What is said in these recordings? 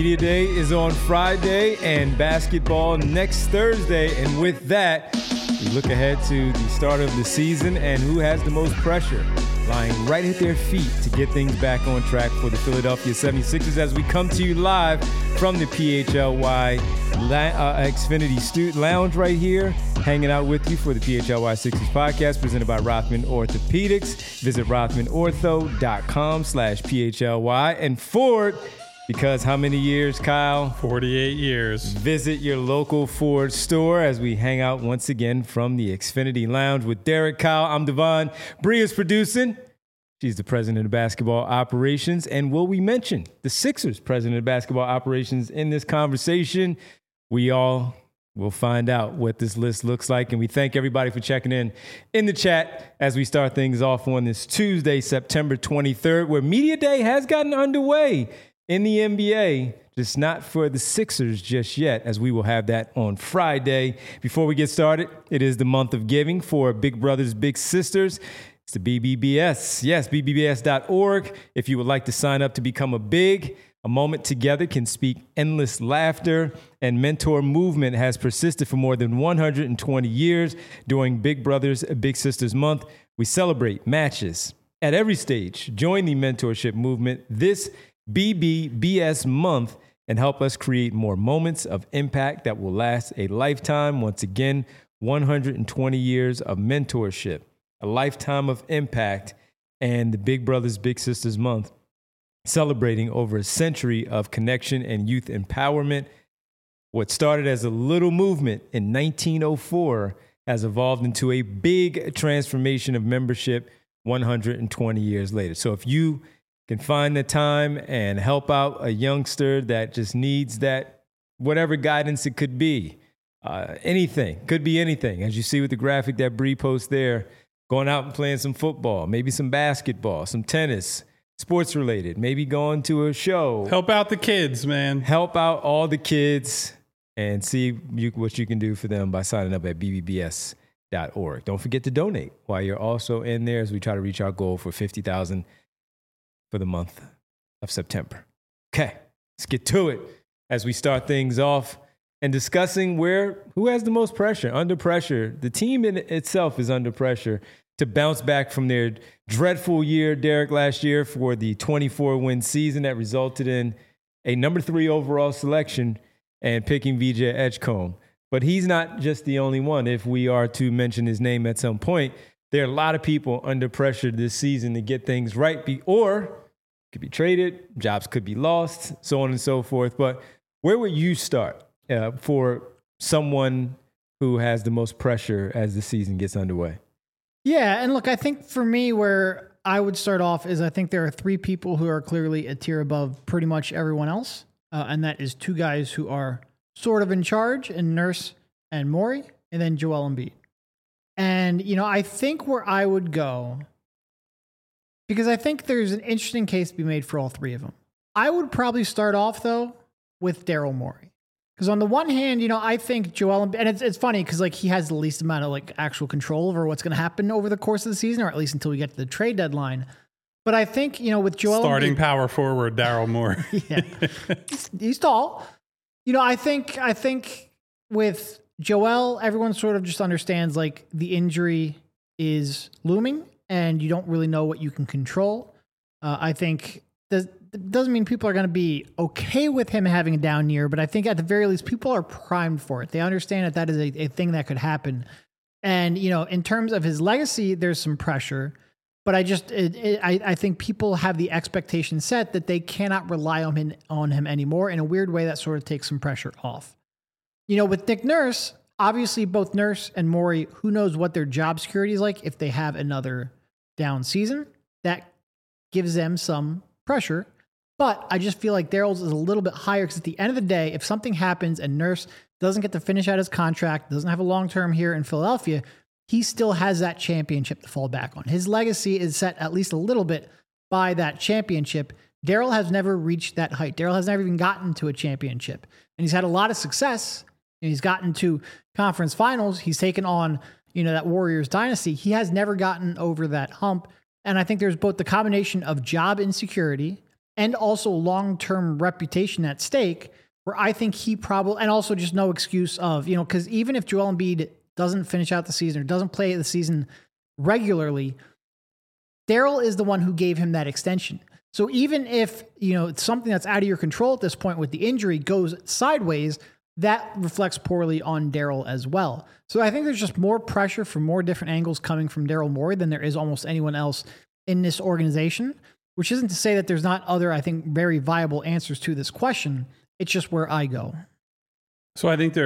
Media Day is on Friday and basketball next Thursday. And with that, we look ahead to the start of the season and who has the most pressure lying right at their feet to get things back on track for the Philadelphia 76ers as we come to you live from the PHLY Xfinity Student Lounge right here, hanging out with you for the PHLY Sixers podcast presented by Rothman Orthopedics. Visit rothmanortho.com/PHLY. And Ford, because how many years, Kyle? 48 years. Visit your local Ford store as we hang out once again from the Xfinity Lounge with Derek, Kyle. I'm Devon. Bria's producing. She's the president of basketball operations. And will we mention the Sixers president of basketball operations in this conversation? We all will find out what this list looks like. And we thank everybody for checking in the chat as we start things off on this Tuesday, September 23rd, where Media Day has gotten underway in the NBA, just not for the Sixers just yet, as we will have that on Friday. Before we get started, it is the month of giving for Big Brothers Big Sisters. It's the BBBS. Yes, BBBS.org. If you would like to sign up to become a moment together can speak endless laughter, and mentor movement has persisted for more than 120 years. During Big Brothers Big Sisters Month, we celebrate matches at every stage. Join the mentorship movement this BBBS month and help us create more moments of impact that will last a lifetime. Once again, 120 years of mentorship, a lifetime of impact, and the Big Brothers Big Sisters Month, celebrating over a century of connection and youth empowerment. What started as a little movement in 1904 has evolved into a big transformation of membership 120 years later. So if you can find the time and help out a youngster that just needs that, whatever guidance it could be, anything, could be anything. As you see with the graphic that Bree posts there, going out and playing some football, maybe some basketball, some tennis, sports related, maybe going to a show. Help out the kids, man. Help out all the kids and see what you can do for them by signing up at BBBS.org. Don't forget to donate while you're also in there as we try to reach our goal for $50,000 for the month of September. Okay, let's get to it as we start things off and discussing who has the most pressure. Under pressure, the team in itself is under pressure to bounce back from their dreadful year, Derek, last year for the 24-win season that resulted in a number 3 overall selection and picking VJ Edgecombe. But he's not just the only one. If we are to mention his name at some point, there are a lot of people under pressure this season to get things right, or could be traded, jobs could be lost, so on and so forth. But where would you start for someone who has the most pressure as the season gets underway? Yeah, and look, I think for me, where I would start off is I think there are 3 people who are clearly a tier above pretty much everyone else, and that is 2 guys who are sort of in charge, and Nurse and Morey, and then Joel Embiid. And, I think where I would go, because I think there's an interesting case to be made for all 3 of them. I would probably start off, though, with Daryl Morey. Because on the one hand, I think Joel, and it's funny because he has the least amount of actual control over what's going to happen over the course of the season, or at least until we get to the trade deadline. But I think, with Joel starting power forward, Daryl Morey. Yeah, he's tall. I think with Joel, everyone sort of just understands the injury is looming and you don't really know what you can control. I think it doesn't mean people are going to be okay with him having a down year, but I think at the very least, people are primed for it. They understand that is a thing that could happen. And, in terms of his legacy, there's some pressure, but I think people have the expectation set that they cannot rely on him anymore. In a weird way, that sort of takes some pressure off. With Nick Nurse, obviously both Nurse and Morey, who knows what their job security is like if they have another down season. That gives them some pressure. But I just feel like Daryl's is a little bit higher because at the end of the day, if something happens and Nurse doesn't get to finish out his contract, doesn't have a long-term here in Philadelphia, he still has that championship to fall back on. His legacy is set at least a little bit by that championship. Daryl has never reached that height. Daryl has never even gotten to a championship. And he's had a lot of success. And he's gotten to conference finals. He's taken on, that Warriors dynasty. He has never gotten over that hump. And I think there's both the combination of job insecurity and also long-term reputation at stake, where I think he probably, and also just no excuse of, because even if Joel Embiid doesn't finish out the season or doesn't play the season regularly, Daryl is the one who gave him that extension. So even if, it's something that's out of your control at this point with the injury goes sideways, that reflects poorly on Daryl as well. So I think there's just more pressure from more different angles coming from Daryl Morey than there is almost anyone else in this organization, which isn't to say that there's not other, I think, very viable answers to this question. It's just where I go. So I think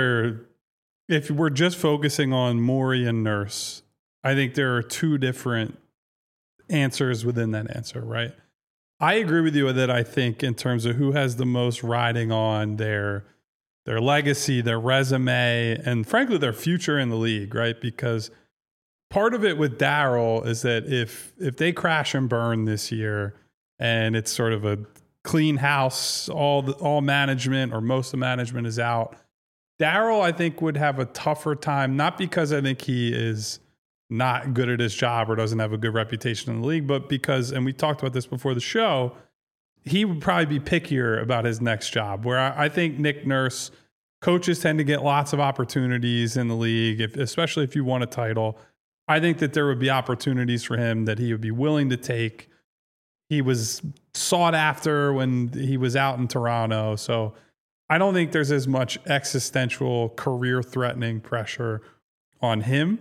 if we're just focusing on Morey and Nurse, I think there are two different answers within that answer, right? I agree with you that I think in terms of who has the most riding on their legacy, their resume, and frankly, their future in the league, right? Because part of it with Daryl is that if they crash and burn this year and it's sort of a clean house, all management or most of the management is out, Daryl, I think, would have a tougher time, not because I think he is not good at his job or doesn't have a good reputation in the league, but because, and we talked about this before the show, he would probably be pickier about his next job, where I think Nick Nurse, coaches tend to get lots of opportunities in the league, especially if you won a title. I think that there would be opportunities for him that he would be willing to take. He was sought after when he was out in Toronto. So I don't think there's as much existential career-threatening pressure on him.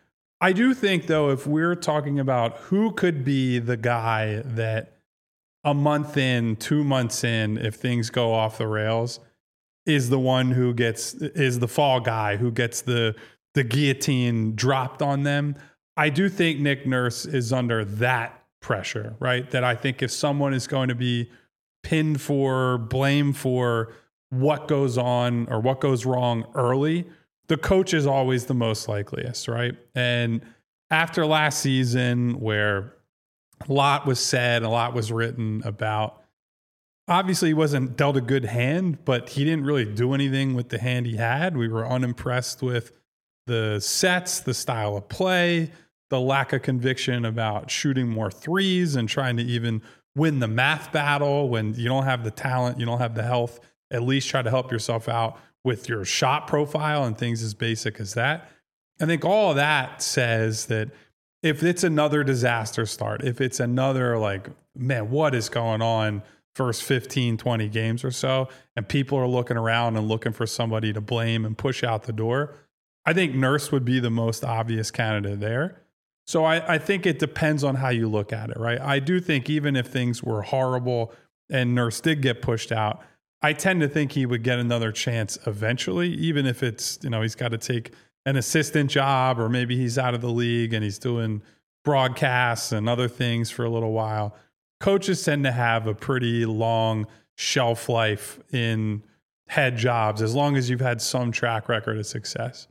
I do think, though, if we're talking about who could be the guy that a month in, 2 months in, if things go off the rails, is the one who is the fall guy who gets the guillotine dropped on them, I do think Nick Nurse is under that pressure, right? That I think if someone is going to be pinned for, blamed for what goes on or what goes wrong early, the coach is always the most likeliest, right? And after last season, where a lot was said, a lot was written about, obviously he wasn't dealt a good hand, but he didn't really do anything with the hand he had. We were unimpressed with the sets, the style of play, the lack of conviction about shooting more threes and trying to even win the math battle when you don't have the talent, you don't have the health. At least try to help yourself out with your shot profile and things as basic as that. I think all of that says that if it's another disaster start, if it's another man, what is going on first 15, 20 games or so, and people are looking around and looking for somebody to blame and push out the door, I think Nurse would be the most obvious candidate there. So I think it depends on how you look at it, right? I do think even if things were horrible and Nurse did get pushed out, I tend to think he would get another chance eventually, even if it's, he's got to take an assistant job or maybe he's out of the league and he's doing broadcasts and other things for a little while. Coaches tend to have a pretty long shelf life in head jobs as long as you've had some track record of success.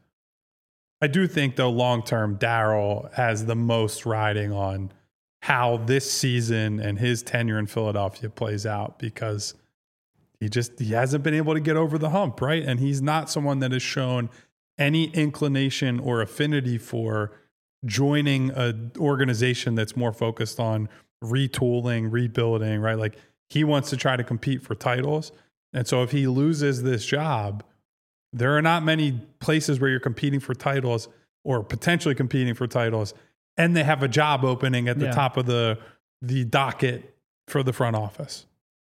I do think, though, long-term, Daryl has the most riding on how this season and his tenure in Philadelphia plays out because he hasn't been able to get over the hump, right? And he's not someone that has shown any inclination or affinity for joining an organization that's more focused on retooling, rebuilding, right? Like he wants to try to compete for titles. And so if he loses this job, there are not many places where you're competing for titles or potentially competing for titles, and they have a job opening at the top of the docket for the front office.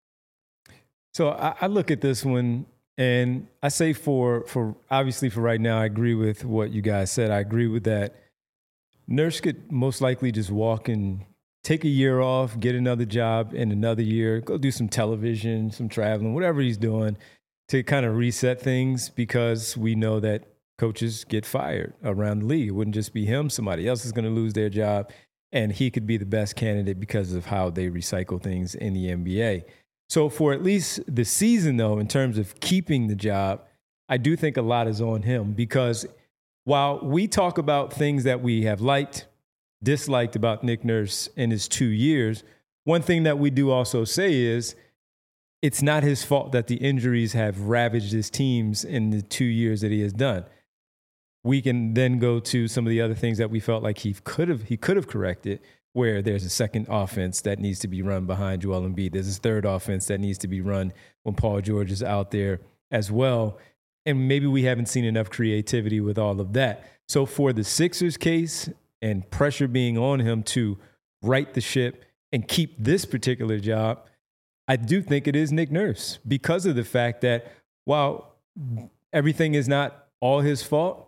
So I look at this one and I say for obviously for right now, I agree with what you guys said. I agree with that. Nurse could most likely just walk and take a year off, get another job in another year, go do some television, some traveling, whatever he's doing to kind of reset things because we know that coaches get fired around the league. It wouldn't just be him. Somebody else is going to lose their job and he could be the best candidate because of how they recycle things in the NBA. So for at least the season, though, in terms of keeping the job, I do think a lot is on him because while we talk about things that we have liked, disliked about Nick Nurse in his 2 years, one thing that we do also say is it's not his fault that the injuries have ravaged his teams in the 2 years that he has done. We can then go to some of the other things that we felt like he could have corrected. where there's a second offense that needs to be run behind Joel Embiid. There's a third offense that needs to be run when Paul George is out there as well. And maybe we haven't seen enough creativity with all of that. So for the Sixers case and pressure being on him to right the ship and keep this particular job, I do think it is Nick Nurse, because of the fact that while everything is not all his fault,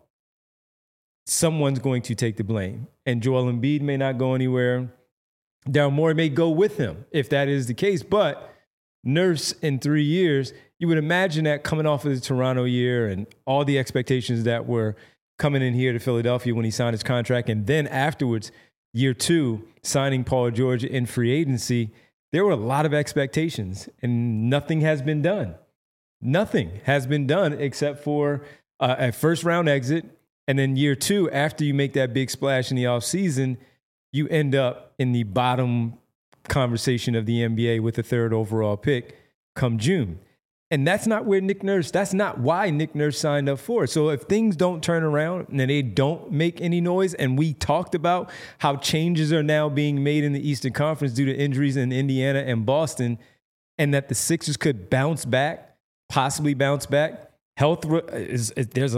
someone's going to take the blame. And Joel Embiid may not go anywhere. Daryl Morey may go with him if that is the case. But Nurse in 3 years, you would imagine that coming off of the Toronto year and all the expectations that were coming in here to Philadelphia when he signed his contract, and then afterwards, year 2, signing Paul George in free agency, there were a lot of expectations, and nothing has been done. Nothing has been done except for a first-round exit, and then year 2, after you make that big splash in the offseason, you end up in the bottom conversation of the NBA with the 3rd overall pick come June. And that's not where Nick Nurse, that's not why Nick Nurse signed up for it. So if things don't turn around and they don't make any noise, and we talked about how changes are now being made in the Eastern Conference due to injuries in Indiana and Boston, and that the Sixers could bounce back, possibly bounce back. Health is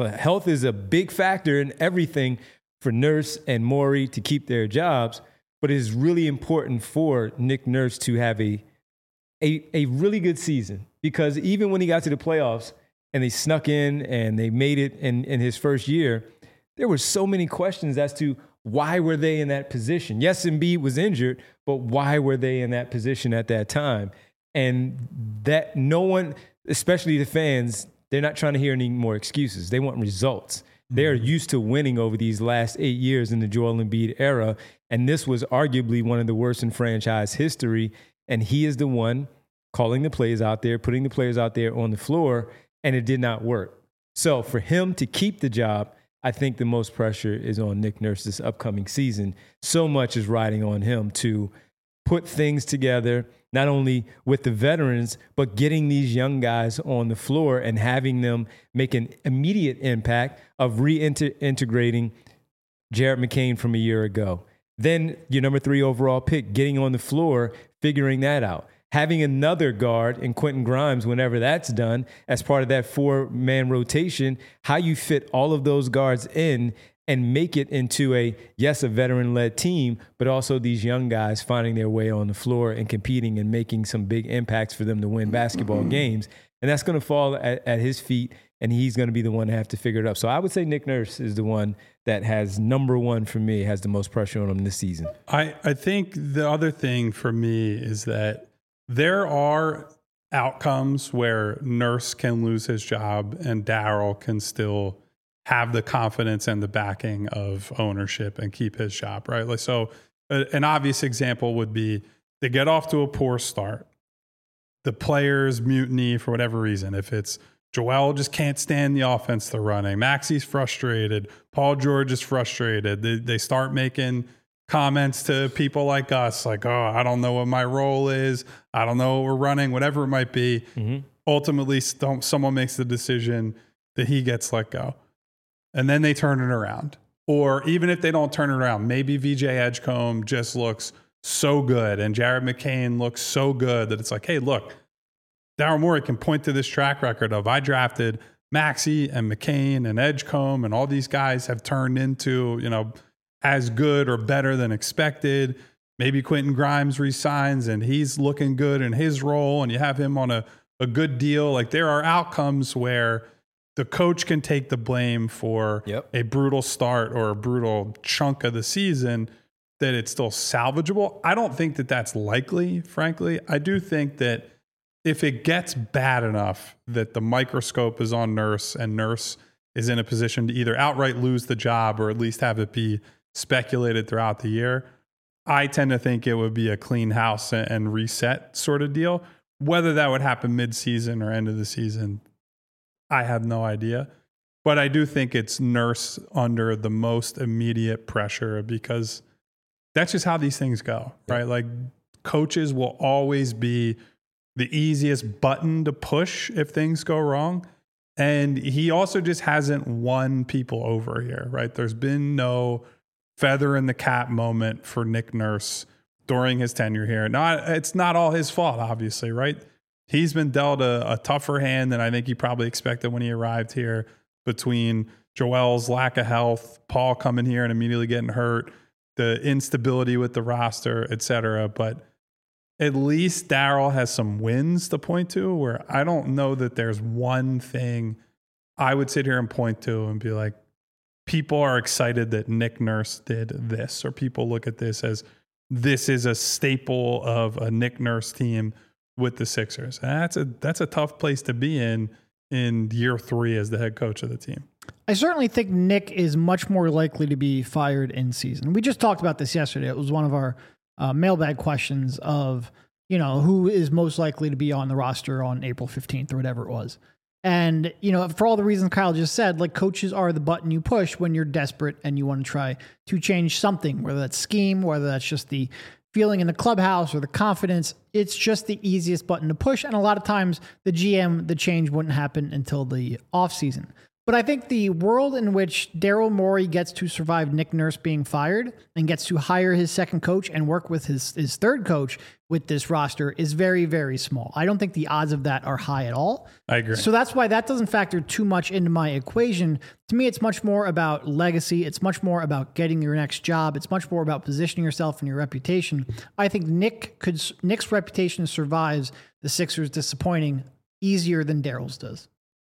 a big factor in everything for Nurse and Morey to keep their jobs, but it is really important for Nick Nurse to have a really good season, because even when he got to the playoffs and they snuck in and they made it in his first year, there were so many questions as to why were they in that position. Yes, Embiid was injured, but why were they in that position at that time? And that no one, especially the fans, they're not trying to hear any more excuses. They want results. They are used to winning over these last 8 years in the Joel Embiid era, and this was arguably one of the worst in franchise history. And he is the one calling the plays out there, putting the players out there on the floor, and it did not work. So for him to keep the job, I think the most pressure is on Nick Nurse this upcoming season. So much is riding on him to put things together, not only with the veterans, but getting these young guys on the floor and having them make an immediate impact of reintegrating Jared McCain from a year ago. Then your number 3 overall pick, getting on the floor, figuring that out. Having another guard in Quentin Grimes whenever that's done as part of that 4-man rotation, how you fit all of those guards in and make it into a veteran-led team, but also these young guys finding their way on the floor and competing and making some big impacts for them to win basketball games. And that's going to fall at his feet, and he's going to be the one to have to figure it out. So I would say Nick Nurse is the one that has number 1 for me, has the most pressure on him this season. I think the other thing for me is that there are outcomes where Nurse can lose his job and Daryl can still have the confidence and the backing of ownership and keep his job, right? Like, so an obvious example would be they get off to a poor start. The players mutiny for whatever reason. If it's Joel just can't stand the offense they're running, Maxey's frustrated, Paul George is frustrated. They start making comments to people like us, like, oh, I don't know what my role is. I don't know what we're running, whatever it might be. Mm-hmm. Ultimately, someone makes the decision that he gets let go. And then they turn it around. Or even if they don't turn it around, maybe VJ Edgecombe just looks so good and Jared McCain looks so good that it's like, hey, look, Daryl Morey can point to this track record of I drafted Maxey and McCain and Edgecombe, and all these guys have turned into, as good or better than expected. Maybe Quentin Grimes resigns and he's looking good in his role and you have him on a good deal. Like, there are outcomes where the coach can take the blame for a brutal start or a brutal chunk of the season, that it's still salvageable. I don't think that that's likely, frankly. I do think that if it gets bad enough that the microscope is on Nurse and Nurse is in a position to either outright lose the job or at least have it be speculated throughout the year, I tend to think it would be a clean house and reset sort of deal. Whether that would happen mid-season or end of the season, I have no idea. But I do think it's Nurse under the most immediate pressure, because that's just how these things go, right? Like, coaches will always be the easiest button to push if things go wrong. And he also just hasn't won people over here, right? There's been no feather in the cap moment for Nick Nurse during his tenure here. It's not all his fault, obviously, right? He's been dealt a tougher hand than I think he probably expected when he arrived here, between Joel's lack of health, Paul coming here and immediately getting hurt, the instability with the roster, et cetera. But at least Daryl has some wins to point to, where I don't know that there's one thing I would sit here and point to and be like, people are excited that Nick Nurse did this, or people look at this as this is a staple of a Nick Nurse team with the Sixers. And that's a tough place to be in year 3 as the head coach of the team. I certainly think Nick is much more likely to be fired in season. We just talked about this yesterday. It was one of our mailbag questions of, who is most likely to be on the roster on April 15th or whatever it was. And, for all the reasons Kyle just said, like, coaches are the button you push when you're desperate and you want to try to change something, whether that's scheme, whether that's just the feeling in the clubhouse or the confidence. It's just the easiest button to push. And a lot of times the change wouldn't happen until the offseason. But I think the world in which Daryl Morey gets to survive Nick Nurse being fired and gets to hire his second coach and work with his third coach with this roster is very, very small. I don't think the odds of that are high at all. I agree. So that's why that doesn't factor too much into my equation. To me, it's much more about legacy. It's much more about getting your next job. It's much more about positioning yourself and your reputation. I think Nick's reputation survives the Sixers disappointing easier than Daryl's does.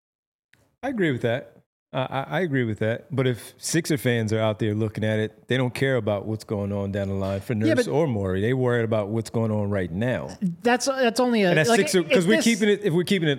I agree with that. I agree with that. But if Sixer fans are out there looking at it, they don't care about what's going on down the line for Nurse or Morey. They worried about what's going on right now. That's only a. And that's Sixer, because we're keeping it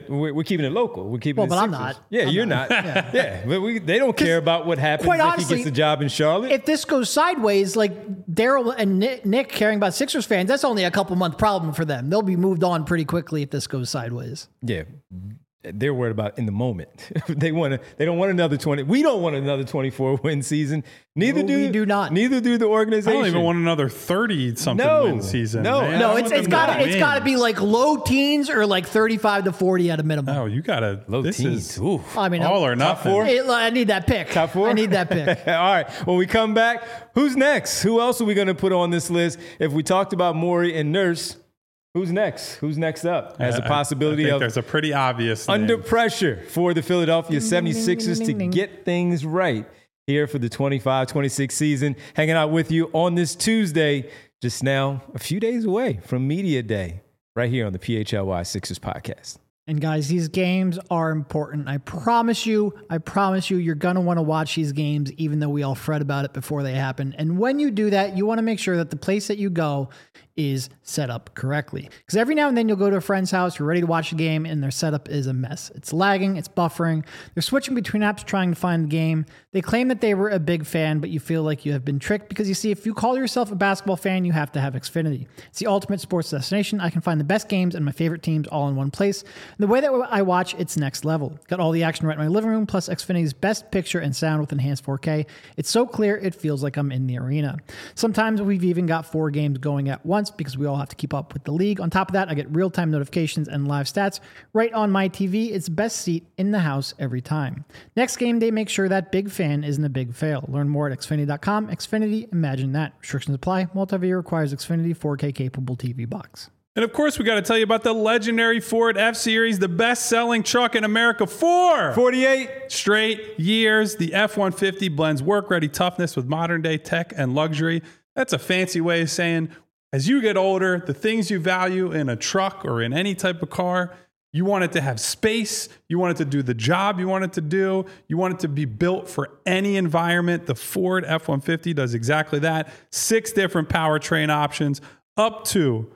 local. We're keeping it. But Sixers. I'm not. Yeah, I'm you're not. Yeah, but they don't care about what happens if he gets the job in Charlotte. If this goes sideways, like Daryl and Nick caring about Sixers fans, that's only a couple month problem for them. They'll be moved on pretty quickly if this goes sideways. Yeah. They're worried about in the moment. They don't want another 20. We don't want another 24-win season. We do not. Neither do the organization. I don't even want another 30-something win season. No, it's got to be like low teens or like 35-40 at a minimum. Oh, you got to low teens. Ooh. I mean, all or nothing. I need that pick. Top 4? I need that pick. All right. When we come back, who's next? Who else are we going to put on this list? If we talked about Morey and Nurse, who's next? Who's next up? As a possibility I think of there's a pretty obvious under name. Pressure for the Philadelphia 76ers to get things right here for the 25-26 season. Hanging out with you on this Tuesday, just now a few days away from Media Day, right here on the PHLY Sixers podcast. And guys, these games are important. I promise you, you're going to want to watch these games, even though we all fret about it before they happen. And when you do that, you want to make sure that the place that you go is set up correctly. Because every now and then you'll go to a friend's house, you're ready to watch a game, and their setup is a mess. It's lagging, it's buffering. They're switching between apps trying to find the game. They claim that they were a big fan, but you feel like you have been tricked because you see, if you call yourself a basketball fan, you have to have Xfinity. It's the ultimate sports destination. I can find the best games and my favorite teams all in one place. And the way that I watch, it's next level. Got all the action right in my living room, plus Xfinity's best picture and sound with enhanced 4K. It's so clear, it feels like I'm in the arena. Sometimes we've even got 4 games going at once because we all have to keep up with the league. On top of that, I get real-time notifications and live stats right on my TV. It's best seat in the house every time. Next game day, make sure that big fan isn't a big fail. Learn more at Xfinity.com. Xfinity, imagine that. Restrictions apply. Multi-view requires Xfinity 4K capable TV box. And of course, we got to tell you about the legendary Ford F-Series, the best-selling truck in America for 48 straight years. The F-150 blends work-ready toughness with modern-day tech and luxury. That's a fancy way of saying, as you get older, the things you value in a truck or in any type of car, you want it to have space. You want it to do the job you want it to do. You want it to be built for any environment. The Ford F-150 does exactly that. 6 different powertrain options, up to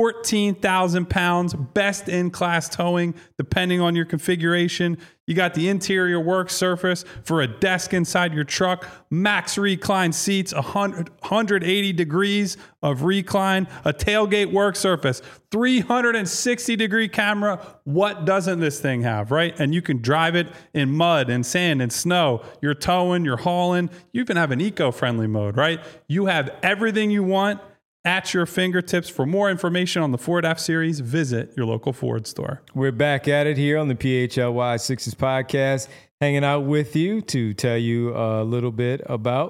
14,000 pounds, best in class towing, depending on your configuration. You got the interior work surface for a desk inside your truck, max recline seats, 180 degrees of recline, a tailgate work surface, 360 degree camera. What doesn't this thing have, right? And you can drive it in mud and sand and snow. You're towing, you're hauling. You even have an eco-friendly mode, right? You have everything you want at your fingertips. For more information on the Ford F-Series, visit your local Ford store. We're back at it here on the PHLY Sixers podcast, hanging out with you to tell you a little bit about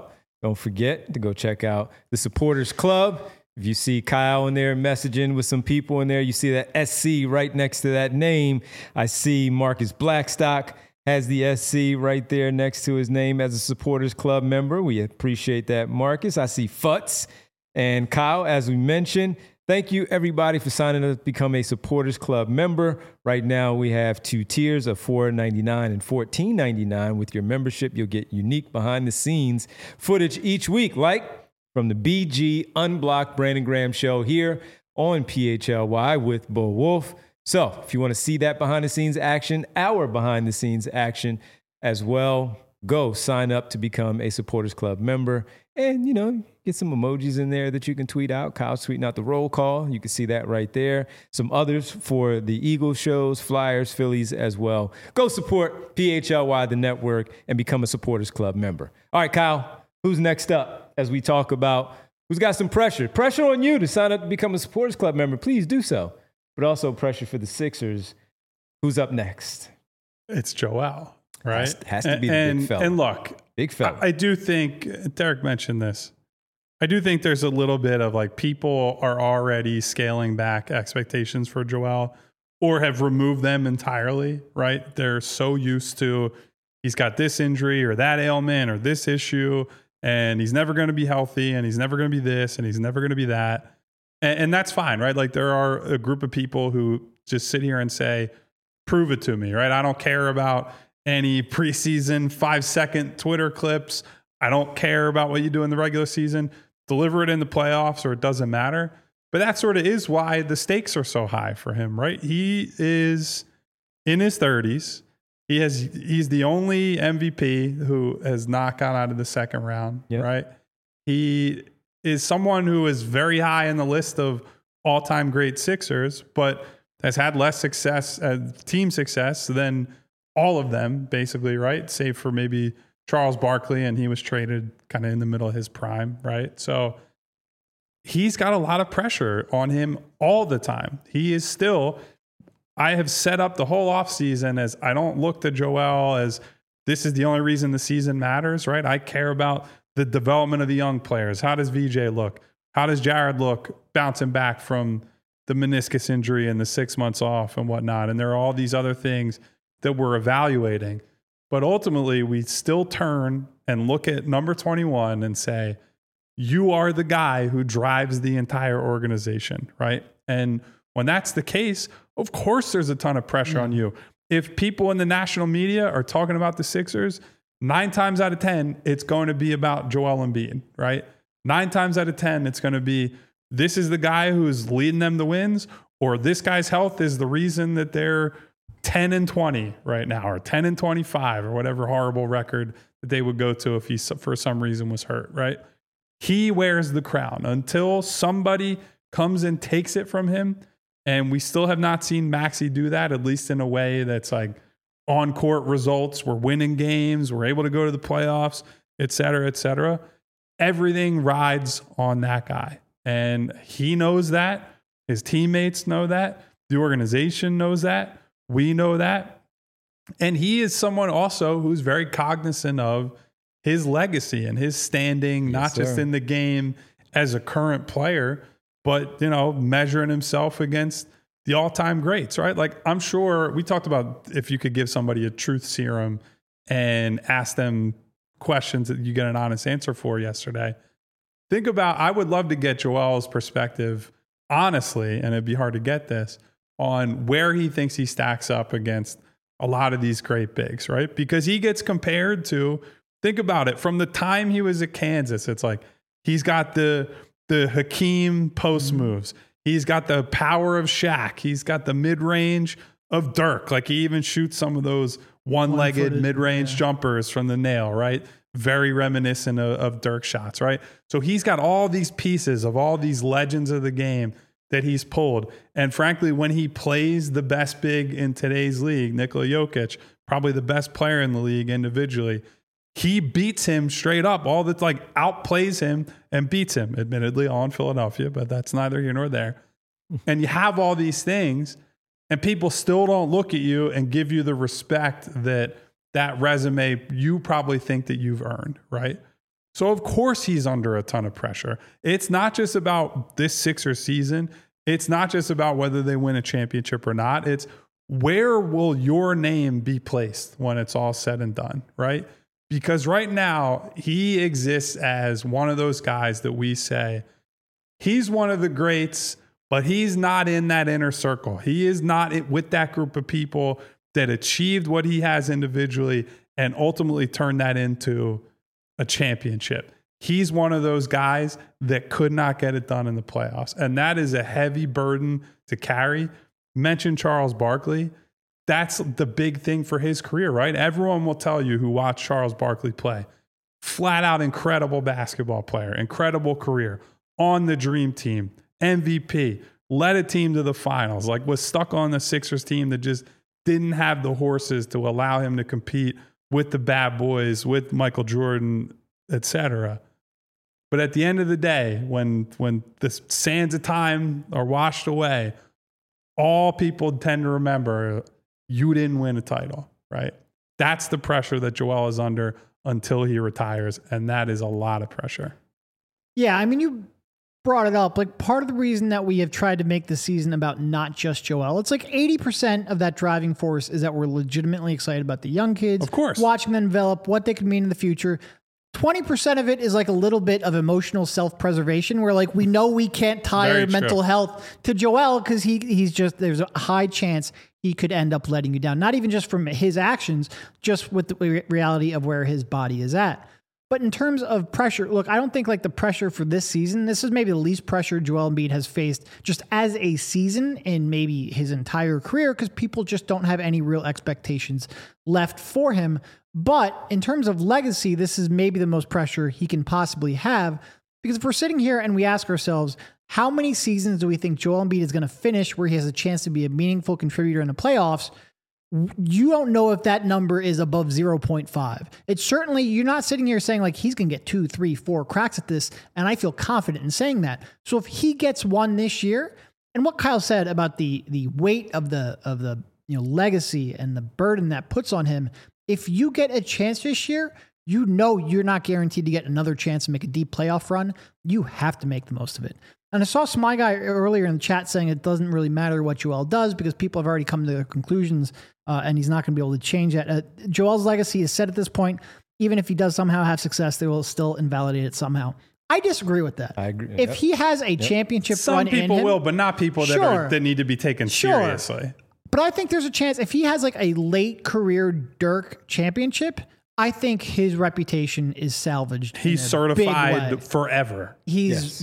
Don't forget to go check out the Supporters Club. If you see Kyle in there messaging with some people in there, you see that SC right next to that name. I see Marcus Blackstock has the SC right there next to his name as a Supporters Club member. We appreciate that, Marcus. I see Futz and Kyle, as we mentioned. Thank you, everybody, for signing up to become a Supporters Club member. Right now, we have 2 tiers of $4.99 and $14.99. With your membership, you'll get unique behind-the-scenes footage each week, like from the BG Unblocked Brandon Graham show here on PHLY with Bo Wolf. So if you want to see that behind-the-scenes action, our behind-the-scenes action as well, go sign up to become a Supporters Club member. And, get some emojis in there that you can tweet out. Kyle's tweeting out the roll call. You can see that right there. Some others for the Eagles shows, Flyers, Phillies as well. Go support PHLY, the network, and become a Supporters Club member. All right, Kyle, who's next up as we talk about who's got some pressure? Pressure on you to sign up to become a Supporters Club member. Please do so. But also pressure for the Sixers. Who's up next? It's Joel, right? Has to be the big fella. And look, big fella. I do think, Derek mentioned this, I do think there's a little bit of like people are already scaling back expectations for Joel or have removed them entirely, right? They're so used to he's got this injury or that ailment or this issue and he's never going to be healthy and he's never going to be this and he's never going to be that. And that's fine, right? Like there are a group of people who just sit here and say, prove it to me, right? I don't care about any preseason 5-second Twitter clips. I don't care about what you do in the regular season. Deliver it in the playoffs or it doesn't matter. But that sort of is why the stakes are so high for him, right? He is in his 30s. He's the only MVP who has not gone out of the second round, right? He is someone who is very high in the list of all-time great Sixers, but has had less success, team success than all of them, basically, right? Save for maybe Charles Barkley, and he was traded kind of in the middle of his prime, right? So he's got a lot of pressure on him all the time. He is still, I have set up the whole offseason as I don't look to Joel as this is the only reason the season matters, right? I care about the development of the young players. How does VJ look? How does Jared look bouncing back from the meniscus injury and the 6 months off and whatnot? And there are all these other things that we're evaluating. But ultimately, we still turn and look at number 21 and say, you are the guy who drives the entire organization, right? And when that's the case, of course, there's a ton of pressure on you. If people in the national media are talking about the Sixers, 9 times out of 10, it's going to be about Joel Embiid, right? 9 times out of 10, it's going to be, this is the guy who's leading them to wins, or this guy's health is the reason that they're 10-20 right now, or 10-25, or whatever horrible record that they would go to if he, for some reason, was hurt, right? He wears the crown until somebody comes and takes it from him. And we still have not seen Maxey do that, at least in a way that's like on-court results. We're winning games. We're able to go to the playoffs, et cetera, et cetera. Everything rides on that guy. And he knows that. His teammates know that. The organization knows that. We know that. And he is someone also who's very cognizant of his legacy and his standing, not just in the game as a current player, but, you know, measuring himself against the all-time greats, right? Like, I'm sure we talked about if you could give somebody a truth serum and ask them questions that you get an honest answer for yesterday. Think about, I would love to get Joel's perspective, honestly, and it'd be hard to get this, on where he thinks he stacks up against a lot of these great bigs, right? Because he gets compared to, think about it, from the time he was at Kansas, it's like he's got the Hakeem post moves. He's got the power of Shaq. He's got the mid-range of Dirk. Like, he even shoots some of those one-legged mid-range jumpers from the nail, right? Very reminiscent of Dirk shots, right? So he's got all these pieces of all these legends of the game that he's pulled. And frankly, when he plays the best big in today's league, Nikola Jokic, probably the best player in the league individually, he beats him straight up. All that, like, outplays him and beats him, admittedly, all in Philadelphia, but that's neither here nor there. And you have all these things, and people still don't look at you and give you the respect that resume you probably think that you've earned, right? So of course he's under a ton of pressure. It's not just about this Sixers season. It's not just about whether they win a championship or not. It's where will your name be placed when it's all said and done, right? Because right now he exists as one of those guys that we say he's one of the greats, but he's not in that inner circle. He is not with that group of people that achieved what he has individually and ultimately turned that into a championship. He's one of those guys that could not get it done in the playoffs. And that is a heavy burden to carry. Mention Charles Barkley. That's the big thing for his career, right? Everyone will tell you who watched Charles Barkley play. Flat out incredible basketball player, incredible career, on the dream team, MVP, led a team to the finals, like was stuck on the Sixers team that just didn't have the horses to allow him to compete with the bad boys, with Michael Jordan, etc. But at the end of the day, when the sands of time are washed away, all people tend to remember you didn't win a title, right? That's the pressure that Joel is under until he retires, and that is a lot of pressure. Yeah, I mean, you brought it up. Like, part of the reason that we have tried to make the season about not just Joel, it's like 80% of that driving force is that we're legitimately excited about the young kids. Of course. Watching them develop, what they could mean in the future. 20% of it is like a little bit of emotional self-preservation where like we know we can't tie mental health to Joel because he's just, there's a high chance he could end up letting you down. Not even just from his actions, just with the reality of where his body is at. But in terms of pressure, look, I don't think like the pressure for this season, this is maybe the least pressure Joel Embiid has faced just as a season in maybe his entire career because people just don't have any real expectations left for him. But in terms of legacy, this is maybe the most pressure he can possibly have because if we're sitting here and we ask ourselves, how many seasons do we think Joel Embiid is going to finish where he has a chance to be a meaningful contributor in the playoffs? You don't know if that number is above 0.5. It's certainly, you're not sitting here saying like he's going to get 2, 3, 4 cracks at this. And I feel confident in saying that. So if he gets one this year, and what Kyle said about the weight of the legacy and the burden that puts on him, if you get a chance this year, you know you're not guaranteed to get another chance to make a deep playoff run. You have to make the most of it. And I saw my guy earlier in the chat saying it doesn't really matter what Joel does because people have already come to their conclusions and he's not going to be able to change that. Joel's legacy is set at this point. Even if he does somehow have success, they will still invalidate it somehow. I disagree with that. I agree. If he has a championship run in him. Some people will, but not people that need to be taken seriously. But I think there's a chance if he has like a late career Dirk championship, I think his reputation is salvaged. He's certified forever. He's,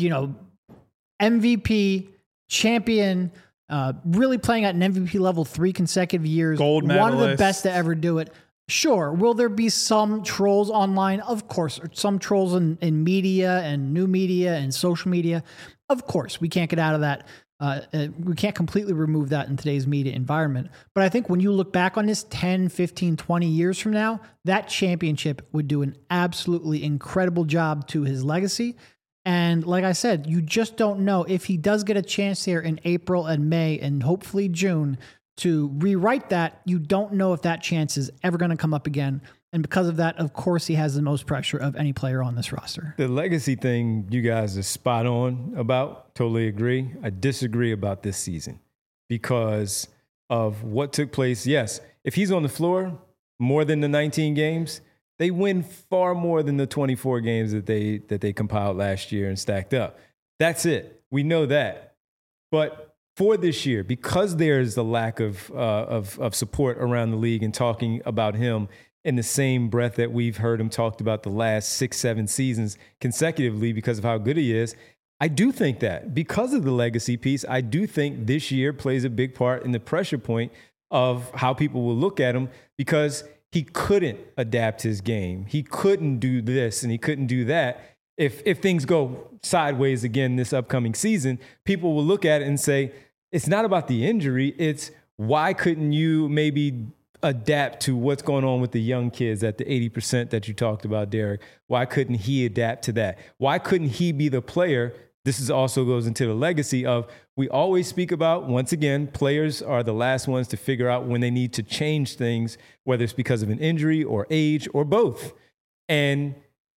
MVP, champion, really playing at an MVP level 3 consecutive years. Gold medalist. One of the best to ever do it. Sure. Will there be some trolls online? Of course. Some trolls in media and new media and social media. Of course. We can't get out of that. We can't completely remove that in today's media environment. But I think when you look back on this 10, 15, 20 years from now, that championship would do an absolutely incredible job to his legacy. And like I said, you just don't know if he does get a chance here in April and May and hopefully June to rewrite that. You don't know if that chance is ever going to come up again. And because of that, of course, he has the most pressure of any player on this roster. The legacy thing you guys are spot on about. Totally agree. I disagree about this season because of what took place. Yes, if he's on the floor more than the 19 games, they win far more than the 24 games that they compiled last year and stacked up. That's it. We know that. But for this year, because there's the lack of support around the league and talking about him in the same breath that we've heard him talked about the last 6-7 seasons consecutively because of how good he is, I do think that because of the legacy piece, I do think this year plays a big part in the pressure point of how people will look at him because he couldn't adapt his game. He couldn't do this and he couldn't do that. If things go sideways again this upcoming season, people will look at it and say, it's not about the injury. It's why couldn't you maybe adapt to what's going on with the young kids at the 80% that you talked about, Derek? Why couldn't he adapt to that? Why couldn't he be the player? This is also goes into the legacy of, we always speak about, once again, players are the last ones to figure out when they need to change things, whether it's because of an injury or age or both. And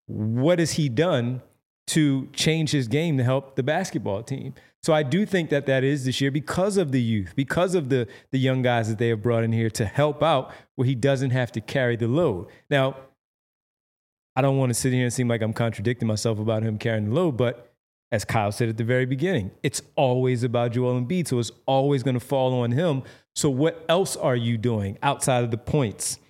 what has he done to change his game to help the basketball team? So I do think that is this year because of the youth, because of the young guys that they have brought in here to help out where he doesn't have to carry the load. Now, I don't want to sit here and seem like I'm contradicting myself about him carrying the load, but as Kyle said at the very beginning, it's always about Joel Embiid, so it's always going to fall on him. So what else are you doing outside of the points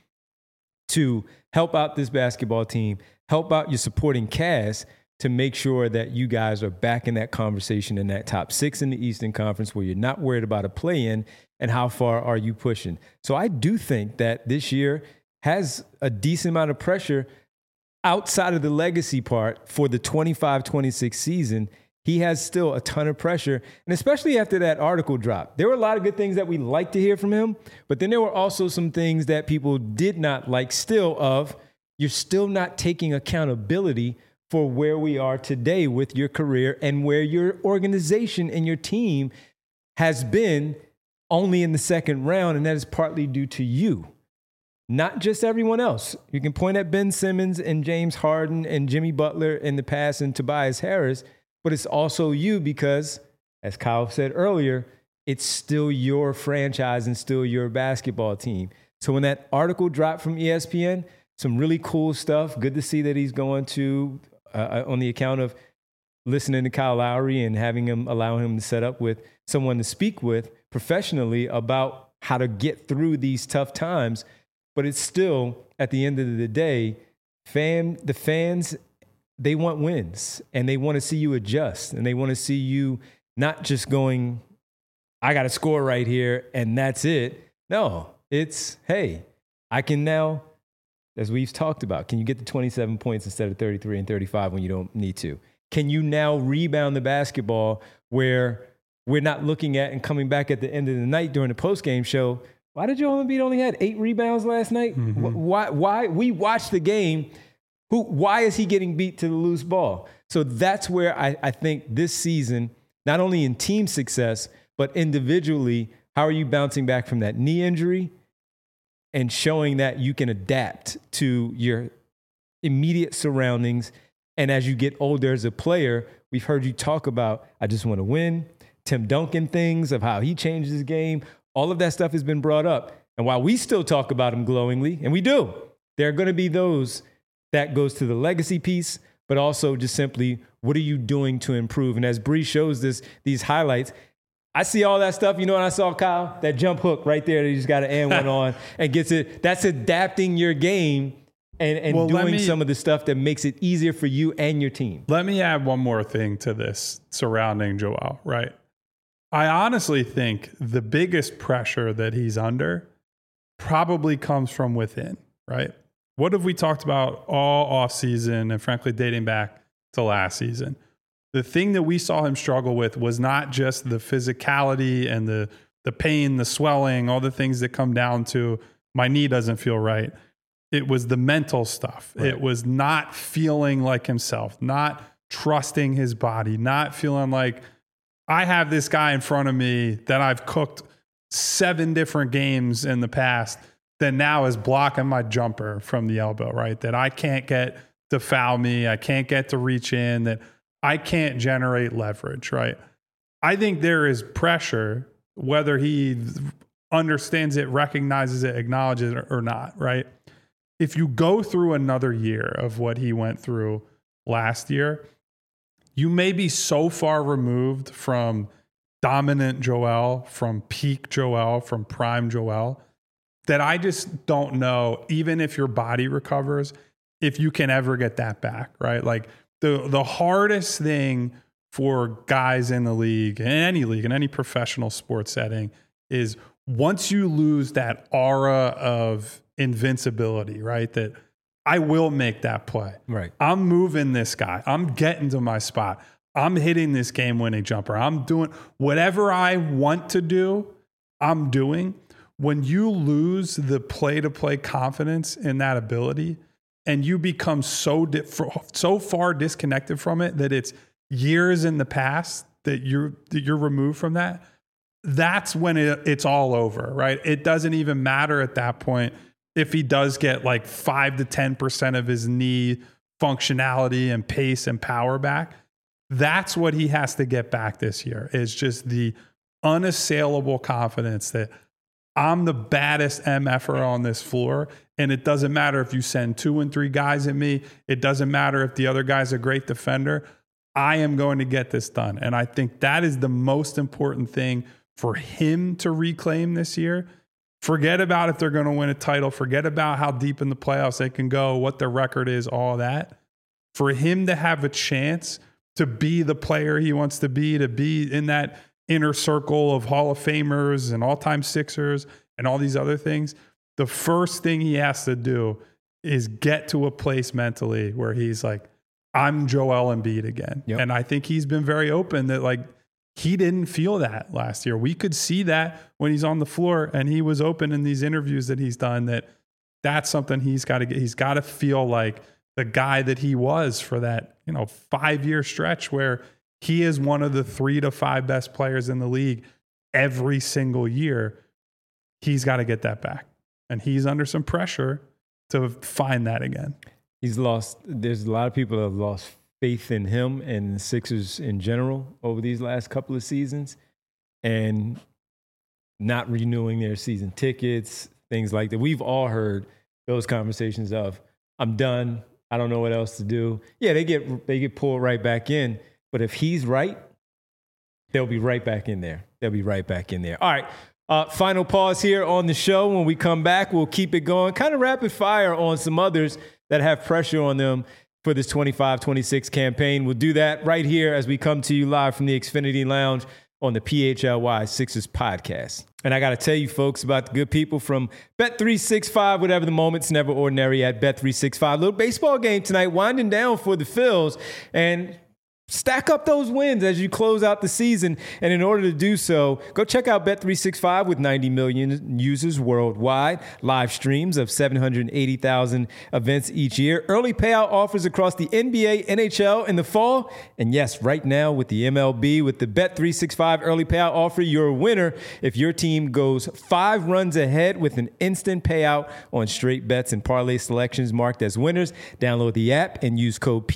to help out this basketball team, help out your supporting cast to make sure that you guys are back in that conversation in that top 6 in the Eastern Conference where you're not worried about a play-in, and how far are you pushing? So I do think that this year has a decent amount of pressure outside of the legacy part for the 25-26 season. He has still a ton of pressure, and especially after that article dropped. There were a lot of good things that we like to hear from him, but then there were also some things that people did not like still of, you're still not taking accountability for where we are today with your career and where your organization and your team has been only in the second round, and that is partly due to you, not just everyone else. You can point at Ben Simmons and James Harden and Jimmy Butler in the past and Tobias Harris, but it's also you because, as Kyle said earlier, it's still your franchise and still your basketball team. So when that article dropped from ESPN, some really cool stuff. Good to see that he's going to, on the account of listening to Kyle Lowry and allow him to set up with someone to speak with professionally about how to get through these tough times. But it's still, at the end of the day, the fans, they want wins, and they want to see you adjust, and they want to see you not just going, I got to score right here, and that's it. No, it's, hey, I can now, as we've talked about, can you get to 27 points instead of 33 and 35 when you don't need to? Can you now rebound the basketball where we're not looking at and coming back at the end of the night during the postgame show, why did Joel Embiid only had 8 rebounds last night? Mm-hmm. Why? We watched the game. Why is he getting beat to the loose ball? So that's where I think this season, not only in team success, but individually, how are you bouncing back from that knee injury and showing that you can adapt to your immediate surroundings? And as you get older as a player, we've heard you talk about, I just want to win, Tim Duncan things of how he changed his game. All of that stuff has been brought up. And while we still talk about him glowingly, and we do, there are going to be those that goes to the legacy piece, but also just simply, what are you doing to improve? And as Bree shows these highlights, I see all that stuff. You know what I saw, Kyle? That jump hook right there that you just got to and one on and gets it. That's adapting your game and doing some of the stuff that makes it easier for you and your team. Let me add one more thing to this surrounding Joel, right? I honestly think the biggest pressure that he's under probably comes from within, right? What have we talked about all offseason and frankly dating back to last season? The thing that we saw him struggle with was not just the physicality and the pain, the swelling, all the things that come down to my knee doesn't feel right. It was the mental stuff. Right. It was not feeling like himself, not trusting his body, not feeling like I have this guy in front of me that I've cooked 7 different games in the past that now is blocking my jumper from the elbow, right? That I can't get to foul me. I can't get to reach in, that I can't generate leverage, right? I think there is pressure, whether he understands it, recognizes it, acknowledges it or not, right? If you go through another year of what he went through last year, you may be so far removed from dominant Joel, from peak Joel, from prime Joel, that I just don't know, even if your body recovers, if you can ever get that back, right? Like the hardest thing for guys in the league, in any professional sports setting, is once you lose that aura of invincibility, right? That I will make that play. Right. I'm moving this guy. I'm getting to my spot. I'm hitting this game-winning jumper. I'm doing whatever I want to do, I'm doing. When you lose the play-to-play confidence in that ability and you become so far disconnected from it that it's years in the past that you're removed from that, that's when it's all over, right? It doesn't even matter at that point if he does get like 5 to 10% of his knee functionality and pace and power back. That's what he has to get back this year, is just the unassailable confidence that I'm the baddest MFer on this floor. And it doesn't matter if you send 2 and 3 guys at me. It doesn't matter if the other guy's a great defender. I am going to get this done. And I think that is the most important thing for him to reclaim this year. Forget about if they're going to win a title. Forget about how deep in the playoffs they can go, what their record is, all that. For him to have a chance to be the player he wants to be in that inner circle of Hall of Famers and all-time Sixers and all these other things, the first thing he has to do is get to a place mentally where he's like, I'm Joel Embiid again. Yep. And I think he's been very open that like he didn't feel that last year. We could see that when he's on the floor, and he was open in these interviews that he's done that that's something he's got to get. He's got to feel like the guy that he was for that, 5-year stretch where he is one of the 3 to 5 best players in the league every single year. He's got to get that back. And he's under some pressure to find that again. There's a lot of people that have lost faith in him and the Sixers in general over these last couple of seasons, and not renewing their season tickets, things like that. We've all heard those conversations of, I'm done. I don't know what else to do. Yeah, they get pulled right back in. But if he's right, they'll be right back in there. All right. Final pause here on the show. When we come back, we'll keep it going. Kind of rapid fire on some others that have pressure on them for this 25-26 campaign. We'll do that right here as we come to you live from the Xfinity Lounge on the PHLY Sixers podcast. And I got to tell you folks about the good people from Bet365, whatever the moment's never ordinary at Bet365. Little baseball game tonight, winding down for the Phils, and stack up those wins as you close out the season. And in order to do so, go check out Bet365 with 90 million users worldwide, live streams of 780,000 events each year, early payout offers across the NBA, NHL in the fall. And yes, right now with the MLB, with the Bet365 early payout offer, you're a winner if your team goes 5 runs ahead with an instant payout on straight bets and parlay selections marked as winners. Download the app and use code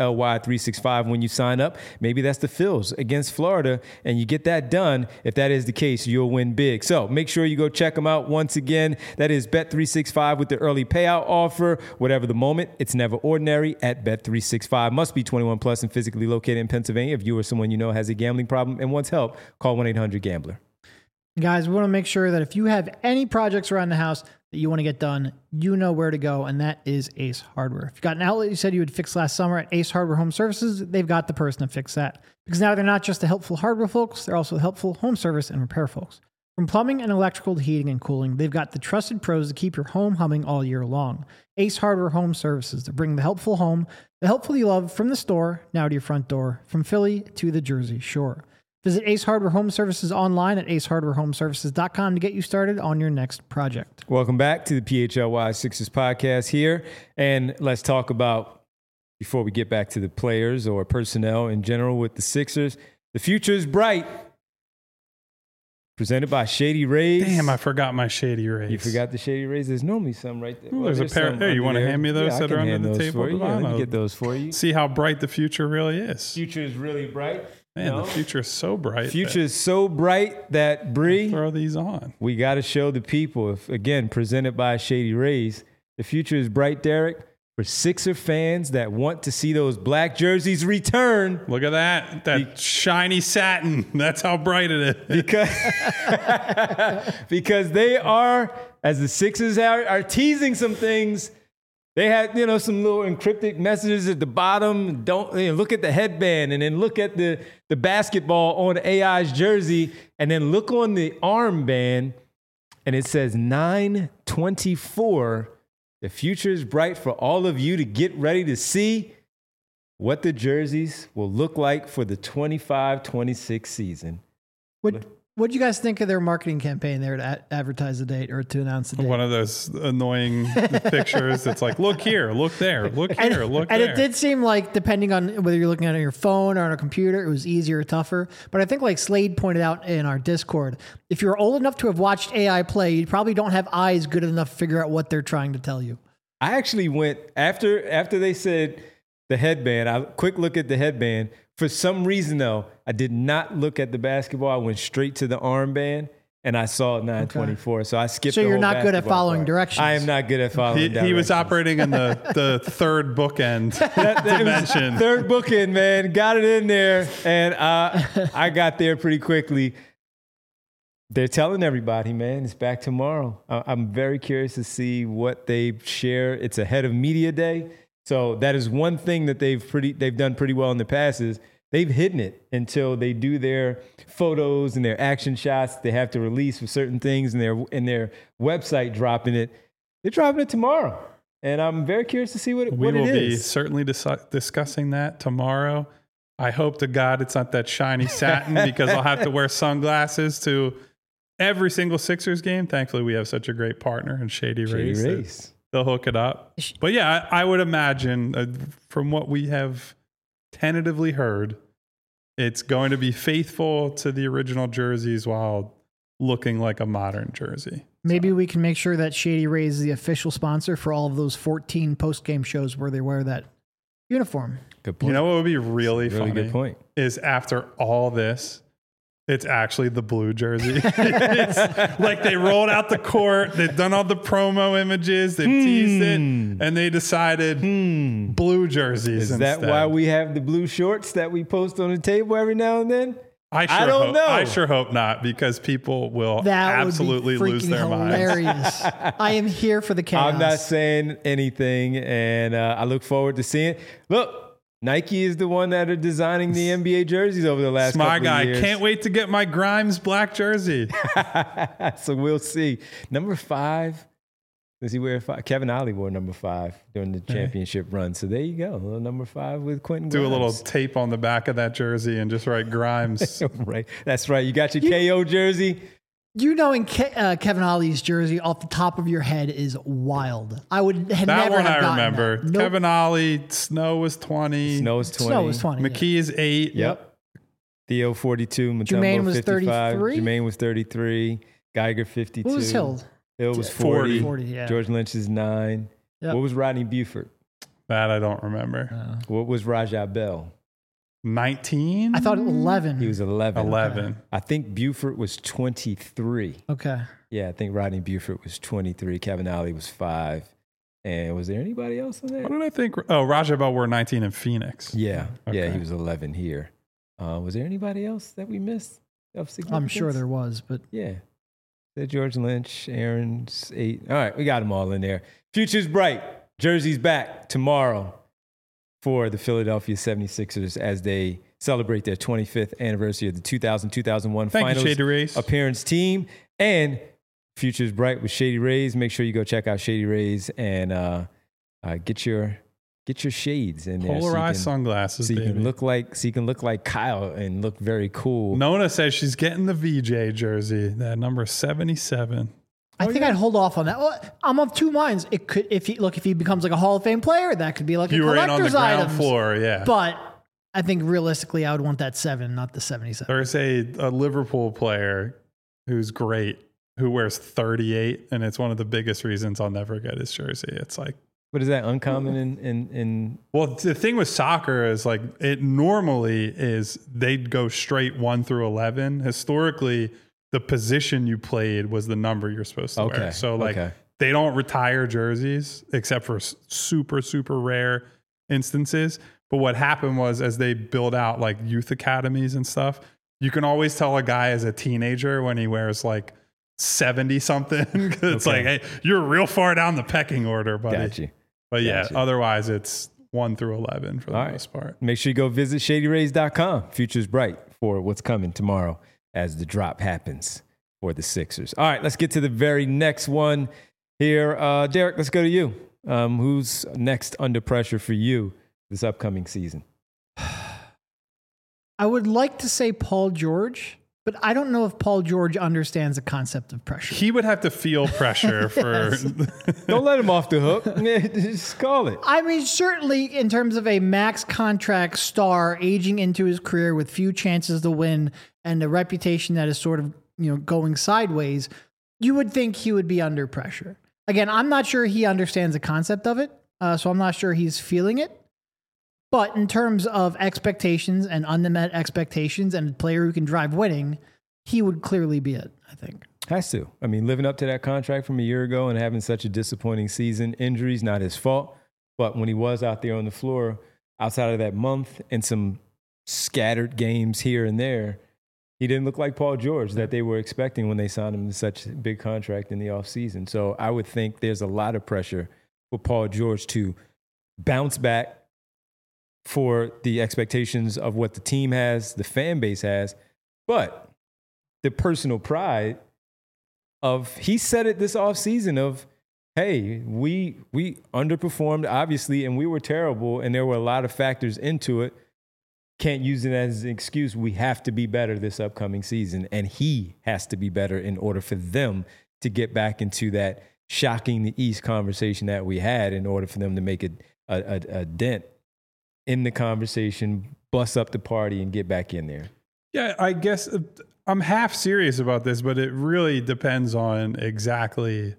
PHLY365 when you sign up. Maybe that's the Phils against Florida, and you get that done. If that is the case, you'll win big. So make sure you go check them out. Once again, that is Bet365 with the early payout offer. Whatever the moment, it's never ordinary at Bet365. Must be 21 plus and physically located in Pennsylvania. If you or someone you know has a gambling problem and wants help, call 1-800-GAMBLER. Guys, we want to make sure that if you have any projects around the house that you want to get done, you know where to go, and that is Ace Hardware. If you got an outlet you said you would fix last summer at Ace Hardware Home Services, they've got the person to fix that. Because now they're not just the helpful hardware folks, they're also the helpful home service and repair folks. From plumbing and electrical to heating and cooling, they've got the trusted pros to keep your home humming all year long. Ace Hardware Home Services, to bring the helpful home, the helpful you love, from the store now to your front door, from Philly to the Jersey Shore. Visit Ace Hardware Home Services online at acehardwarehomeservices.com to get you started on your next project. Welcome back to the PHLY Sixers podcast here. And let's talk about, before we get back to the players or personnel in general with the Sixers, the future is bright. Presented by Shady Rays. Damn, I forgot my Shady Rays. You forgot the Shady Rays? There's normally some right there. Ooh, there's a pair. Hey, you want to hand me those that are under the table? Yeah, let me get those for you. See how bright the future really is. Future is really bright. Man, the future is so bright. Future is so bright that, Bree, throw these on. We got to show the people, again, presented by Shady Rays. The future is bright, Derek, for Sixer fans that want to see those black jerseys return. Look at that shiny satin. That's how bright it is. Because they are, as the Sixers are teasing some things. They had, some little encrypted messages at the bottom. Don't look at the headband, and then look at the basketball on AI's jersey, and then look on the armband, and it says 9/24. The future is bright for all of you to get ready to see what the jerseys will look like for the 25-26 season. What do you guys think of their marketing campaign there to advertise the date or to announce the date? One of those annoying pictures that's like, look here, look there, look here, look there. And it did seem like, depending on whether you're looking at it on your phone or on a computer, it was easier or tougher. But I think, like Slade pointed out in our Discord, if you're old enough to have watched AI play, you probably don't have eyes good enough to figure out what they're trying to tell you. I actually went after they said the headband. I quick look at the headband. For some reason, though, I did not look at the basketball. I went straight to the armband, and I saw 924. So I skipped. So the you're whole not good at basketball following part. directions. I am not good at following. He was operating in the third bookend dimension. Third bookend, man. Got it in there, and I got there pretty quickly. They're telling everybody, man, it's back tomorrow. I'm very curious to see what they share. It's ahead of media day. So that is one thing that they've done pretty well in the past is they've hidden it until they do their photos and their action shots they have to release for certain things and their website dropping it. They're dropping it tomorrow. And I'm very curious to see what it is. We will be certainly discussing that tomorrow. I hope to God it's not that shiny satin because I'll have to wear sunglasses to every single Sixers game. Thankfully, we have such a great partner in Shady Rays. They'll hook it up. But yeah, I would imagine from what we have tentatively heard, it's going to be faithful to the original jerseys while looking like a modern jersey. Maybe we can make sure that Shady Rays is the official sponsor for all of those 14 post-game shows where they wear that uniform. Good point. You know what would be really funny? Good point. Is after all this, it's actually the blue jersey. It's like they rolled out the court. They've done all the promo images. They've teased it. And they decided blue jerseys Is that instead. why we have the blue shorts that we post on the table every now and then? I don't know. I sure hope not because people will absolutely lose their hilarious. minds. I am here for the chaos. I'm not saying anything, and I look forward to seeing it. Look, Nike is the one that are designing the NBA jerseys over the last couple of years. Can't wait to get my Grimes black jersey. So we'll see. Number 5. Does he wear 5? Kevin Ollie wore number 5 during the championship run. So there you go. A little number 5 with Quentin Grimes. Do a little tape on the back of that jersey and just write Grimes. Right. That's right. You got your KO jersey. You knowing Kevin Ollie's jersey off the top of your head is wild. I would have that never one have I remember. That. Nope. Kevin Ollie, Snow was 20. Snow was 20. McKee is 8. Yep. Theo 42. Mutombo Jermaine was 55. 33. Jermaine was 33. Geiger 52. What was Hill? Hill was 40. 40, yeah. George Lynch is 9. Yep. What was Rodney Buford? That I don't remember. What was Rajah Bell? 19? I thought 11. He was 11. 11. I think Buford was 23. Okay. Yeah, I think Rodney Buford was 23. Kevin Ollie was 5. And was there anybody else on there? What did I think? Oh, Rajah Bell wore 19 in Phoenix. Yeah. Okay. Yeah, he was 11 here. Was there anybody else that we missed of significance? I'm sure there was, but Yeah. George Lynch, Aaron's 8. All right, we got them all in there. Future's bright. Jersey's back tomorrow for the Philadelphia 76ers as they celebrate their 25th anniversary of the 2000-2001 Finals Shady Rays. appearance team. And Future's bright with Shady Rays. Make sure you go check out Shady Rays and get your shades in there. Polarized sunglasses, so you baby. can look like Kyle and look very cool. Nona says she's getting the VJ jersey, that number 77. I think I'd hold off on that. Well, I'm of two minds. It could, if he becomes like a Hall of Fame player, that could be like You a were in on the collector's ground item. floor, yeah. But I think realistically, I would want that 7, not the 77. There's a Liverpool player who's great who wears 38, and it's one of the biggest reasons I'll never get his jersey. It's like, What is that uncommon in well, the thing with soccer is like it normally is they'd go straight 1 through 11. Historically, the position you played was the number you're supposed to wear. So like they don't retire jerseys except for super, super rare instances. But what happened was as they build out like youth academies and stuff, you can always tell a guy as a teenager when he wears like 70 something. It's like, hey, you're real far down the pecking order, buddy. Got you. But yeah, Gotcha. Otherwise it's 1 through 11 for the All most part. Make sure you go visit shadyrays.com. Future's bright for what's coming tomorrow as the drop happens for the Sixers. All right, let's get to the very next one here. Derek, let's go to you. Who's next under pressure for you this upcoming season? I would like to say Paul George, but I don't know if Paul George understands the concept of pressure. He would have to feel pressure for Don't let him off the hook. Just call it. I mean, certainly in terms of a max contract star aging into his career with few chances to win and a reputation that is sort of, going sideways, you would think he would be under pressure. Again, I'm not sure he understands the concept of it, so I'm not sure he's feeling it. But in terms of expectations and unmet expectations and a player who can drive winning, he would clearly be it, I think. Has to. I mean, living up to that contract from a year ago and having such a disappointing season, injuries, not his fault. But when he was out there on the floor, outside of that month and some scattered games here and there, he didn't look like Paul George that they were expecting when they signed him to such a big contract in the offseason. So I would think there's a lot of pressure for Paul George to bounce back for the expectations of what the team has, the fan base has, but the personal pride of, he said it this offseason of, hey, we underperformed, obviously, and we were terrible, and there were a lot of factors into it. Can't use it as an excuse. We have to be better this upcoming season, and he has to be better in order for them to get back into that shocking the East conversation that we had, in order for them to make a dent in the conversation, bust up the party, and get back in there. Yeah, I guess I'm half serious about this, but it really depends on exactly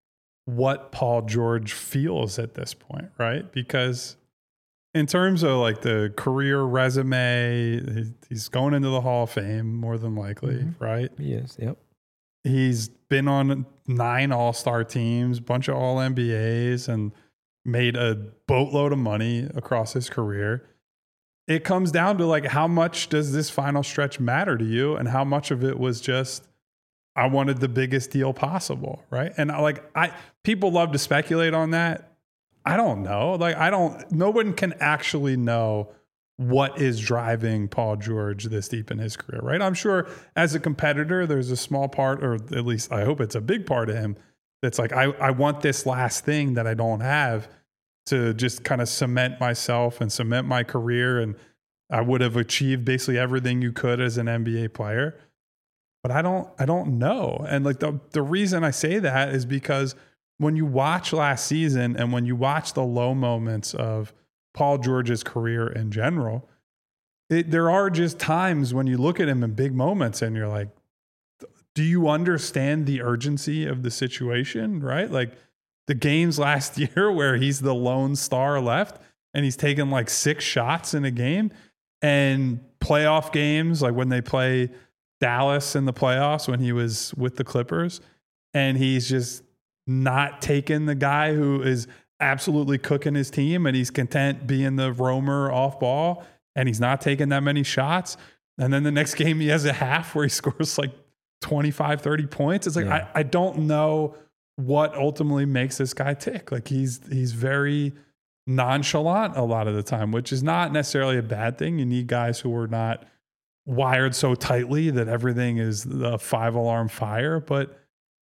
what Paul George feels at this point, right? Because in terms of like the career resume, he's going into the Hall of Fame more than likely, right? Yes, yep. He's been on 9 All-Star teams, bunch of All-NBAs, and made a boatload of money across his career. It comes down to like, how much does this final stretch matter to you, and how much of it was just, I wanted the biggest deal possible, right? And people love to speculate on that. I don't know. No one can actually know what is driving Paul George this deep in his career, right? I'm sure as a competitor, there's a small part, or at least I hope it's a big part of him, that's like, I want this last thing that I don't have to just kind of cement myself and cement my career. And I would have achieved basically everything you could as an NBA player. But I don't know. And like the reason I say that is because when you watch last season and when you watch the low moments of Paul George's career in general, there are just times when you look at him in big moments and you're like, do you understand the urgency of the situation, right? Like the games last year where he's the lone star left and he's taken like 6 shots in a game, and playoff games, like when they play Dallas in the playoffs when he was with the Clippers, and he's just not taking the guy who is absolutely cooking his team, and he's content being the roamer off ball, and he's not taking that many shots. And then the next game he has a half where he scores like 25, 30 points. It's like, yeah. I don't know what ultimately makes this guy tick. Like he's very nonchalant a lot of the time, which is not necessarily a bad thing. You need guys who are not wired so tightly that everything is the 5-alarm fire. But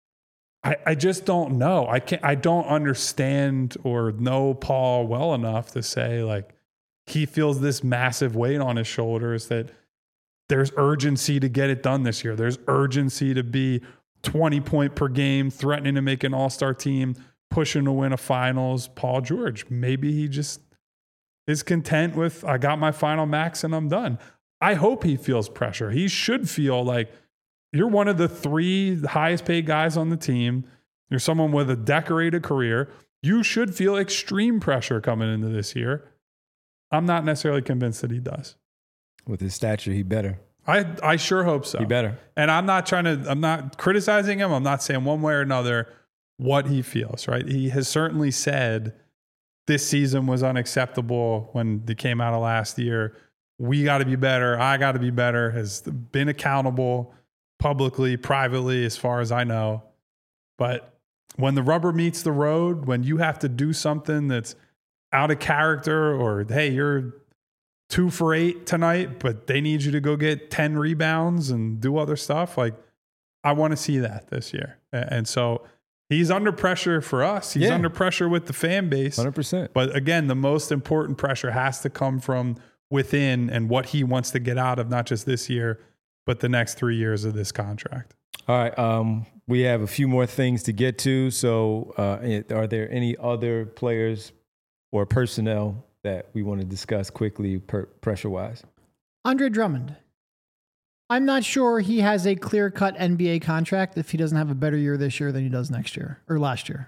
I just don't know. I don't understand or know Paul well enough to say like he feels this massive weight on his shoulders that there's urgency to get it done this year. There's urgency to be 20 point per game, threatening to make an all-star team, pushing to win a finals. Paul George, maybe he just is content with, I got my final max and I'm done. I hope he feels pressure. He should feel like you're one of the 3 highest paid guys on the team. You're someone with a decorated career. You should feel extreme pressure coming into this year. I'm not necessarily convinced that he does. With his stature, he better. I sure hope so. He better. And I'm not criticizing him. I'm not saying one way or another what he feels, right? He has certainly said this season was unacceptable when they came out of last year. We got to be better. I got to be better. Has been accountable publicly, privately, as far as I know. But when the rubber meets the road, when you have to do something that's out of character, or, hey, you're 2 for 8 tonight, but they need you to go get 10 rebounds and do other stuff. Like, I want to see that this year. And so he's under pressure for us. He's under pressure with the fan base. 100%. But again, the most important pressure has to come from within and what he wants to get out of not just this year, but the next 3 years of this contract. All right. We have a few more things to get to. So are there any other players or personnel that we want to discuss quickly pressure-wise? Andre Drummond. I'm not sure he has a clear-cut NBA contract if he doesn't have a better year this year than he does next year or last year.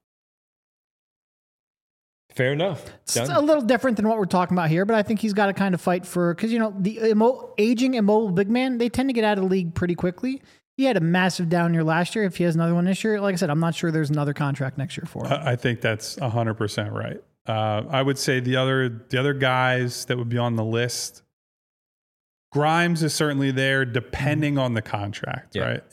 Fair enough. It's a little different than what we're talking about here, but I think he's got to kind of fight for, because, the aging immobile big man, they tend to get out of the league pretty quickly. He had a massive down year last year. If he has another one this year, like I said, I'm not sure there's another contract next year for him. I think that's 100% right. I would say the other guys that would be on the list, Grimes is certainly there depending on the contract, right?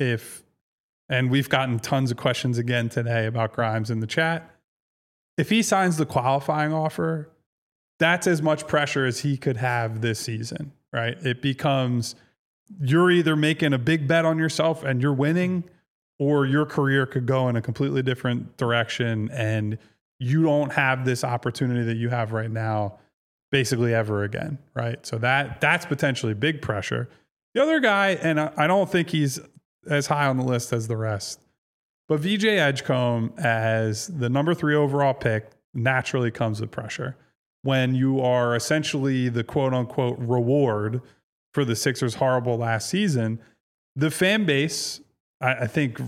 And we've gotten tons of questions again today about Grimes in the chat. If he signs the qualifying offer, that's as much pressure as he could have this season, right? It becomes, you're either making a big bet on yourself and you're winning, or your career could go in a completely different direction and you don't have this opportunity that you have right now basically ever again, right? So that's potentially big pressure. The other guy, and I don't think he's as high on the list as the rest, but VJ Edgecombe as the number 3 overall pick naturally comes with pressure. When you are essentially the quote unquote reward for the Sixers' horrible last season, the fan base, I think,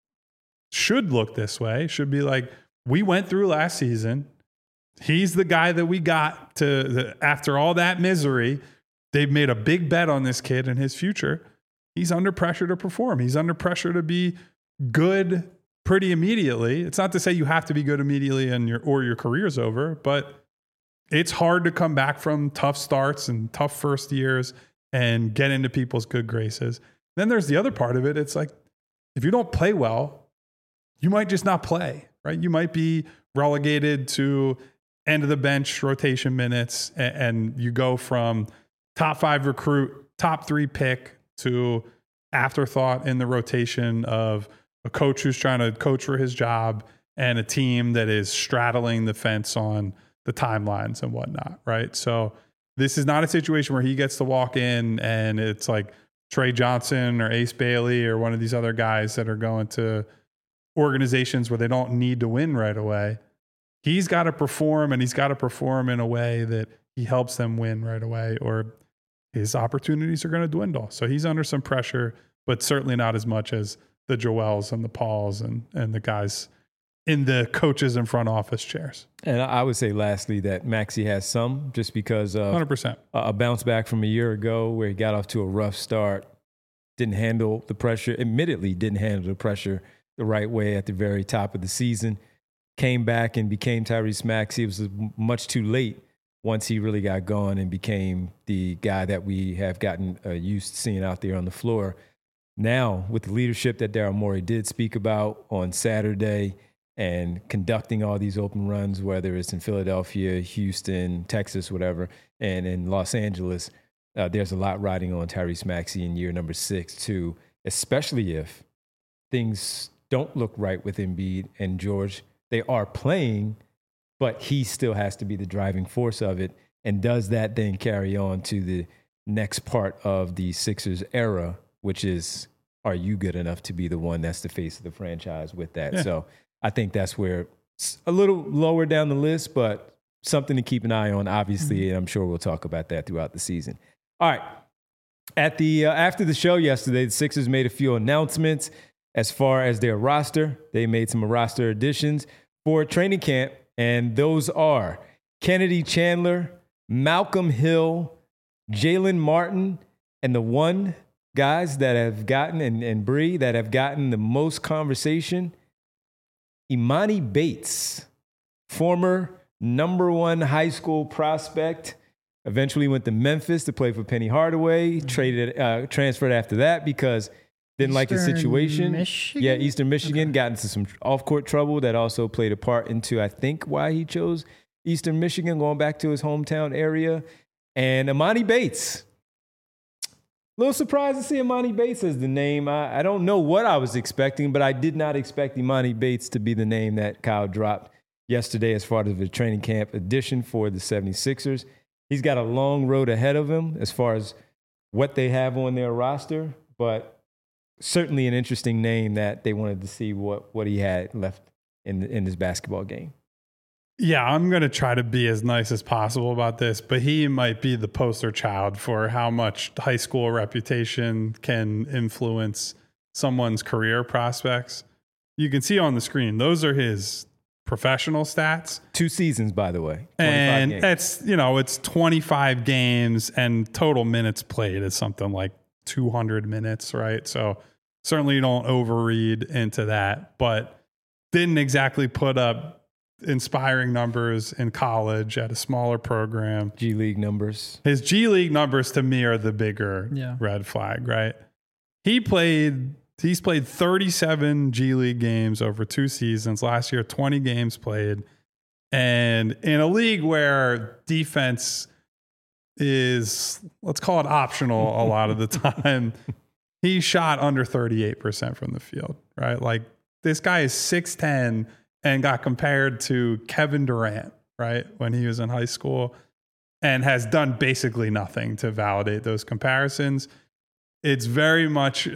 should look this way, should be like, we went through last season. He's the guy that we got after all that misery. They've made a big bet on this kid and his future. He's under pressure to perform. He's under pressure to be good pretty immediately. It's not to say you have to be good immediately or your career's over, but it's hard to come back from tough starts and tough first years and get into people's good graces. Then there's the other part of it. It's like, if you don't play well, you might just not play, right? You might be relegated to end of the bench rotation minutes, and you go from top 5 recruit, top 3 pick to afterthought in the rotation of a coach who's trying to coach for his job and a team that is straddling the fence on the timelines and whatnot, right? So this is not a situation where he gets to walk in and it's like Trey Johnson or Ace Bailey or one of these other guys that are going to organizations where they don't need to win right away. He's got to perform, and he's got to perform in a way that he helps them win right away, or his opportunities are going to dwindle. So he's under some pressure, but certainly not as much as the Joels and the Pauls and the guys in the coaches and front office chairs. And I would say lastly that Maxey has some, just because of 100%. A bounce back from a year ago where he got off to a rough start, didn't handle the pressure, admittedly didn't handle the pressure the right way at the very top of the season, came back and became Tyrese Maxey. It was much too late once he really got going and became the guy that we have gotten used to seeing out there on the floor. Now, with the leadership that Daryl Morey did speak about on Saturday and conducting all these open runs, whether it's in Philadelphia, Houston, Texas, whatever, and in Los Angeles, there's a lot riding on Tyrese Maxey in year number 6 too, especially if things don't look right with Embiid and George. They are playing, but he still has to be the driving force of it. And does that then carry on to the next part of the Sixers era, which is, are you good enough to be the one that's the face of the franchise with that? Yeah. So I think that's where it's a little lower down the list, but something to keep an eye on, obviously, and I'm sure we'll talk about that throughout the season. All right. At the after the show yesterday, the Sixers made a few announcements as far as their roster. They made some roster additions for training camp, and those are Kennedy Chandler, Malcolm Hill, Jalen Martin, and the one guys that have gotten, and Bree, that have gotten the most conversation, Imani Bates, former number 1 high school prospect, eventually went to Memphis to play for Penny Hardaway, transferred after that because didn't like his situation. Michigan? Yeah, Eastern Michigan, got into some off-court trouble that also played a part into, I think, why he chose Eastern Michigan, going back to his hometown area. And Imani Bates. A little surprised to see Imani Bates as the name. I don't know what I was expecting, but I did not expect Imani Bates to be the name that Kyle dropped yesterday as far as the training camp addition for the 76ers. He's got a long road ahead of him as far as what they have on their roster, but certainly an interesting name that they wanted to see what he had left in his basketball game. Yeah, I'm going to try to be as nice as possible about this, but he might be the poster child for how much high school reputation can influence someone's career prospects. You can see on the screen, those are his professional stats. 2 seasons, by the way. And games. it's 25 games and total minutes played is something like 200 minutes, right? So certainly you don't overread into that, but didn't exactly put up inspiring numbers in college at a smaller program. G League numbers. His G League numbers to me are the bigger red flag, right? He's played 37 G League games over 2 seasons. Last year, 20 games played. And in a league where defense is, let's call it optional a lot of the time, he shot under 38% from the field, right? Like, this guy is 6'10", and got compared to Kevin Durant, right, when he was in high school, and has done basically nothing to validate those comparisons. It's very much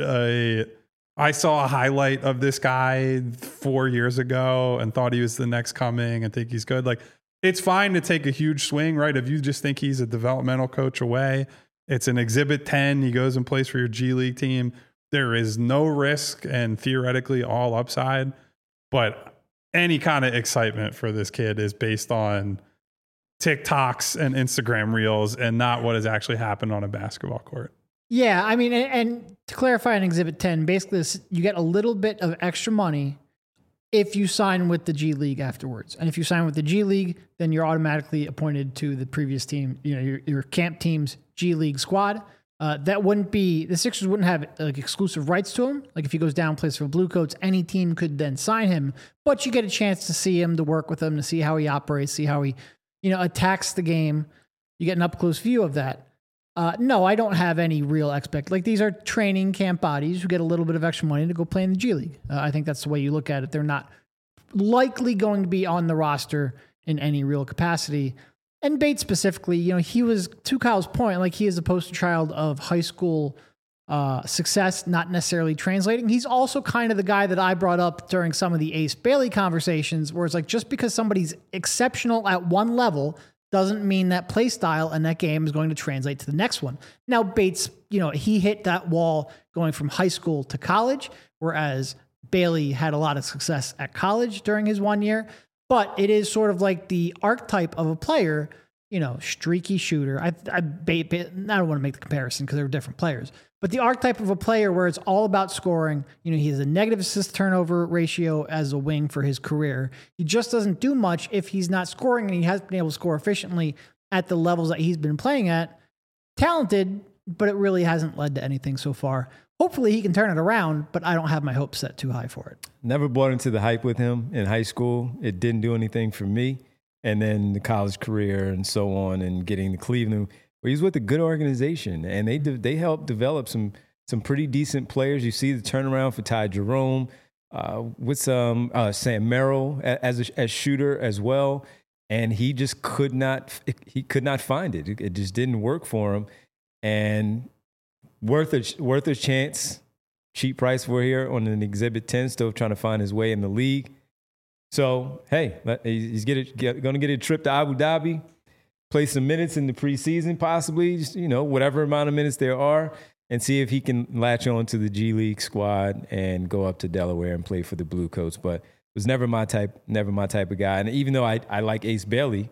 I saw a highlight of this guy 4 years ago and thought he was the next coming and think he's good. Like, it's fine to take a huge swing, right? If you just think he's a developmental coach away, it's an Exhibit 10. He goes and plays for your G League team. There is no risk and theoretically all upside, but any kind of excitement for this kid is based on TikToks and Instagram reels and not what has actually happened on a basketball court. Yeah, I mean, and to clarify in Exhibit 10, basically you get a little bit of extra money if you sign with the G League afterwards. And if you sign with the G League, then you're automatically appointed to the previous team, your camp team's G League squad. That wouldn't be, the Sixers wouldn't have like exclusive rights to him. Like if he goes down, plays for Blue Coats, any team could then sign him, but you get a chance to see him, to work with him, to see how he operates, see how he, attacks the game. You get an up close view of that. No, I don't have any real like these are training camp bodies who get a little bit of extra money to go play in the G League. I think that's the way you look at it. They're not likely going to be on the roster in any real capacity. And Bates specifically, he was, to Kyle's point, like he is a poster child of high school success, not necessarily translating. He's also kind of the guy that I brought up during some of the Ace Bailey conversations, where it's like, just because somebody's exceptional at one level doesn't mean that play style and that game is going to translate to the next one. Now, Bates, he hit that wall going from high school to college, whereas Bailey had a lot of success at college during his 1 year. But it is sort of like the archetype of a player, streaky shooter. I don't want to make the comparison because they're different players. But the archetype of a player where it's all about scoring. He has a negative assist turnover ratio as a wing for his career. He just doesn't do much if he's not scoring, and he hasn't been able to score efficiently at the levels that he's been playing at. Talented, but it really hasn't led to anything so far. Hopefully he can turn it around, but I don't have my hopes set too high for it. Never bought into the hype with him in high school. It didn't do anything for me. And then the college career and so on, and getting to Cleveland, where he's with a good organization, and they helped develop some pretty decent players. You see the turnaround for Ty Jerome, with Sam Merrill as shooter as well, and he just could not find it. It just didn't work for him, and worth a chance. Cheap price for here on an Exhibit 10, still trying to find his way in the league. So, hey, he's going to get a trip to Abu Dhabi, play some minutes in the preseason, possibly, just, whatever amount of minutes there are, and see if he can latch on to the G League squad and go up to Delaware and play for the Blue Coats. But it was never my type of guy. And even though I like Ace Bailey,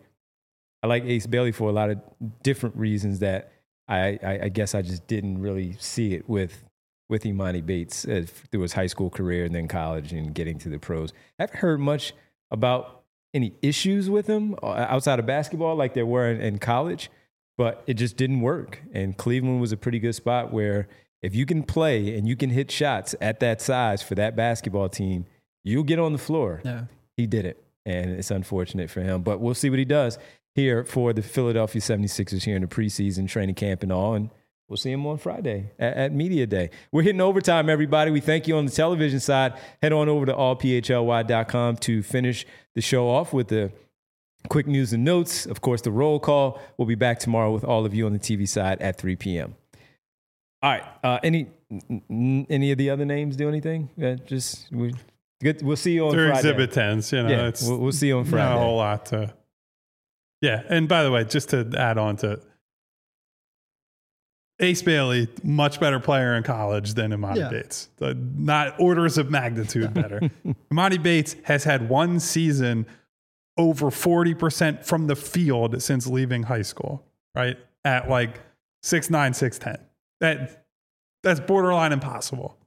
for a lot of different reasons that I guess I just didn't really see it with Emoni Bates through his high school career and then college and getting to the pros. I haven't heard much about any issues with him outside of basketball like there were in college, but it just didn't work. And Cleveland was a pretty good spot where if you can play and you can hit shots at that size for that basketball team, you'll get on the floor. Yeah. He did it, and it's unfortunate for him. But we'll see what he does here for the Philadelphia 76ers here in the preseason training camp and all, and we'll see him on Friday at Media Day. We're hitting overtime, everybody. We thank you on the television side. Head on over to allphly.com to finish the show off with the quick news and notes. Of course, the roll call. We'll be back tomorrow with all of you on the TV side at 3 p.m. All right. Any of the other names do anything? Good. We'll see you on They're Friday. exhibit 10s, you know. Yeah, It's we'll see you on Friday. not a whole lot to. Yeah, and by the way, just to add on to Ace Bailey, much better player in college than Imani Bates. Not orders of magnitude better. Imani Bates has had one season over 40% from the field since leaving high school, right? At like 6'9", 6'10". That's borderline impossible.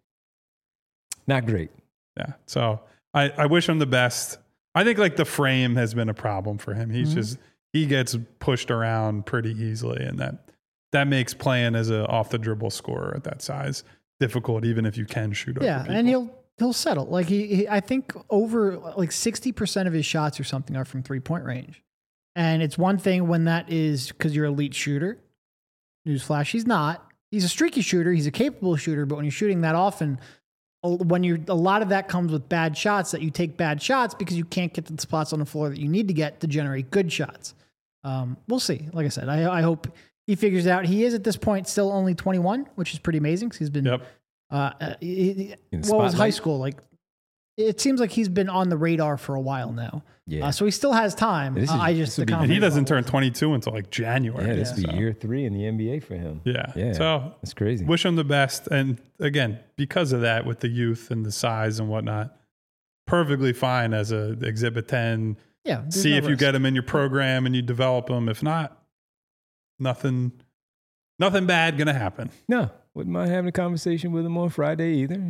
Not great. Yeah. So I wish him the best. I think like the frame has been a problem for him. He's he gets pushed around pretty easily, and that makes playing as an off the dribble scorer at that size difficult, even if you can shoot over people. And he'll settle. Like he I think over like 60% of his shots or something are from 3-point range. And it's one thing when that is because you're an elite shooter. Newsflash, he's not. He's a streaky shooter. He's a capable shooter, but when you're shooting that often, a lot of that comes with bad shots, that you take bad shots because you can't get to the spots on the floor that you need to get to generate good shots. We'll see. Like I said, I hope he figures it out. He is at this point still only 21, which is pretty amazing because he's been, what was high school? Like, it seems like he's been on the radar for a while now. Yeah. So he still has time. And he doesn't turn 22 until like January. Yeah, this will be year 3 in the NBA for him. Yeah. So that's crazy. Wish him the best. And again, because of that, with the youth and the size and whatnot, perfectly fine as a Exhibit 10. Yeah. See if you get him in your program and you develop him. If not, nothing bad going to happen. No. Wouldn't mind having a conversation with him on Friday either.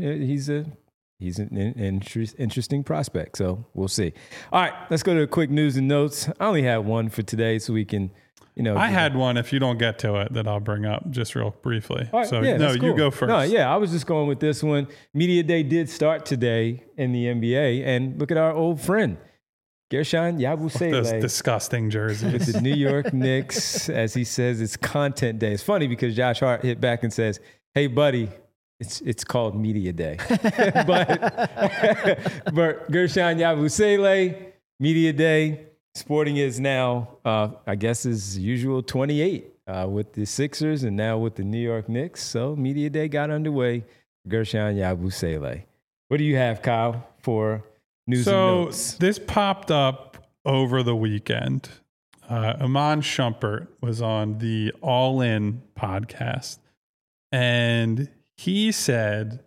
He's an interesting prospect, so we'll see. All right, let's go to quick news and notes. I only have one for today, so we can, I had one. If you don't get to it, that I'll bring up just real briefly. All right, so cool. You go first. No, I was just going with this one. Media Day did start today in the NBA, and look at our old friend, Gershon Yabusele. Those disgusting jerseys. With the New York Knicks, as he says, it's content day. It's funny because Josh Hart hit back and says, "Hey, buddy, it's called Media Day." but Gershon Yabusele, Media Day, sporting is now, I guess, his usual 28 with the Sixers and now with the New York Knicks. So Media Day got underway. Gershon Yabusele. What do you have, Kyle, for news and notes? So this popped up over the weekend. Iman Shumpert was on the All In podcast, and he said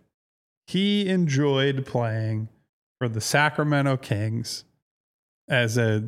he enjoyed playing for the Sacramento Kings as a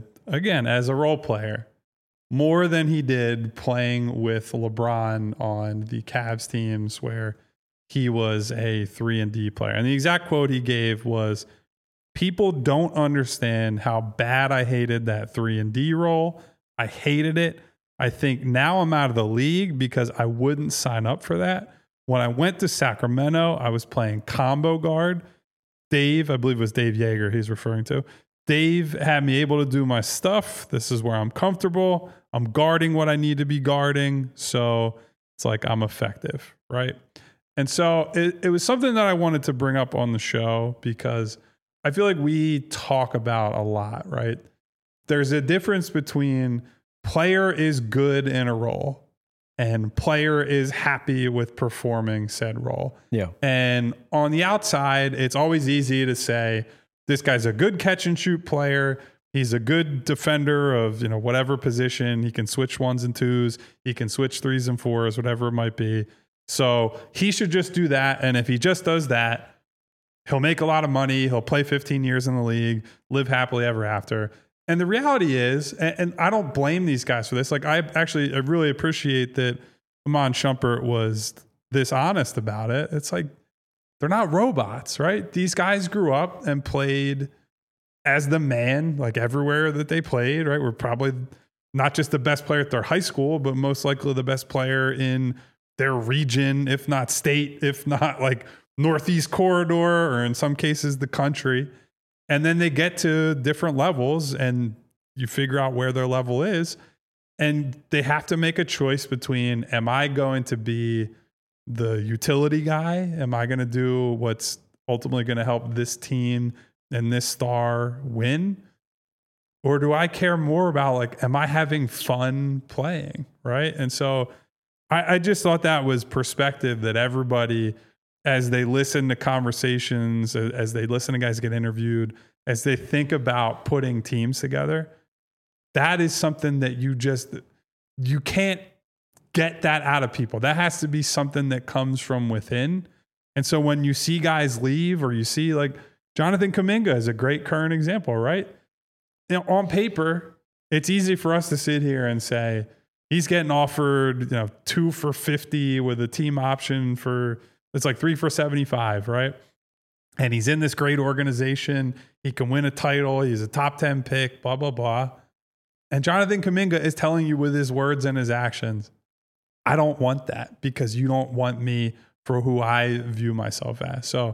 role player more than he did playing with LeBron on the Cavs teams where he was a 3-and-D player. And the exact quote he gave was, "People don't understand how bad I hated that 3-and-D role. I hated it. I think now I'm out of the league because I wouldn't sign up for that. When I went to Sacramento, I was playing combo guard. Dave, I believe it was Dave Yeager he's referring to. Dave had me able to do my stuff. This is where I'm comfortable. I'm guarding what I need to be guarding. So it's like I'm effective, right?" And so it was something that I wanted to bring up on the show because I feel like we talk about a lot, right? There's a difference between player is good in a role and player is happy with performing said role. Yeah. And on the outside, it's always easy to say, this guy's a good catch and shoot player. He's a good defender of, whatever position. He can switch 1s and 2s. He can switch 3s and 4s, whatever it might be. So he should just do that. And if he just does that, he'll make a lot of money. He'll play 15 years in the league, live happily ever after. And the reality is, and I don't blame these guys for this. Like I really appreciate that Iman Shumpert was this honest about it. It's like, they're not robots, right? These guys grew up and played as the man, like everywhere that they played, right? We're probably not just the best player at their high school, but most likely the best player in their region, if not state, if not like Northeast corridor, or in some cases the country. And then they get to different levels and you figure out where their level is. And they have to make a choice between, am I going to be the utility guy? Am I going to do what's ultimately going to help this team and this star win? Or do I care more about, like, am I having fun playing? Right. And so I just thought that was perspective that everybody, as they listen to conversations, as they listen to guys get interviewed, as they think about putting teams together, that is something that you can't get that out of people. That has to be something that comes from within. And so when you see guys leave, or you see like Jonathan Kuminga is a great current example, right? You know, on paper, it's easy for us to sit here and say he's getting offered, 2 for $50 with a team option for, it's like 3 for $75, right? And he's in this great organization. He can win a title. He's a top 10 pick, blah, blah, blah. And Jonathan Kuminga is telling you with his words and his actions, I don't want that because you don't want me for who I view myself as. So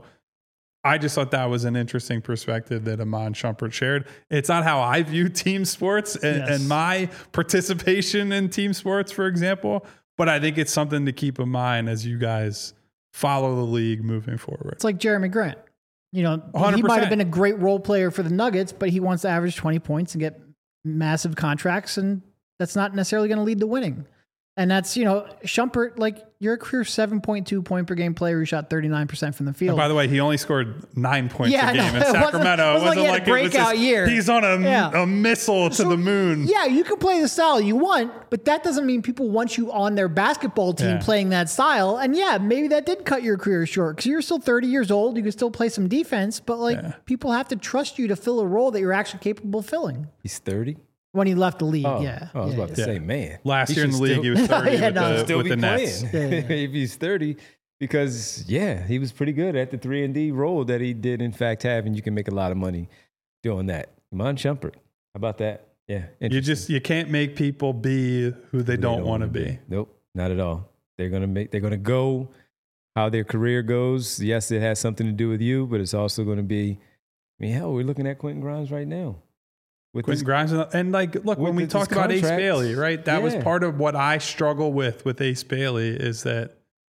I just thought that was an interesting perspective that Iman Shumpert shared. It's not how I view team sports and my participation in team sports, for example, but I think it's something to keep in mind as you guys follow the league moving forward. It's like Jeremy Grant. 100%. He might have been a great role player for the Nuggets, but he wants to average 20 points and get massive contracts, and that's not necessarily going to lead to winning. And that's, Shumpert, like, you're a career 7.2 point per game player who shot 39% from the field. And by the way, he only scored 9 points a game in Sacramento. It wasn't like a breakout year. He's on a missile to the moon. Yeah, you can play the style you want, but that doesn't mean people want you on their basketball team playing that style. And yeah, maybe that did cut your career short because you're still 30 years old. You can still play some defense, but people have to trust you to fill a role that you're actually capable of filling. He's 30? When he left the league, I was about to say, man. Last year in the league, he was 30 with the Nets. If he's 30, because, he was pretty good at the 3-and-D role that he did, in fact, have, and you can make a lot of money doing that. Iman Shumpert, how about that? Yeah. You can't make people be who they don't want to be. Nope, not at all. They're gonna go how their career goes. Yes, it has something to do with you, but it's also going to be, hell, we're looking at Quentin Grimes right now. Quentin Grimes, and look, when we talked about Ace Bailey, right? That was part of what I struggle with Ace Bailey is that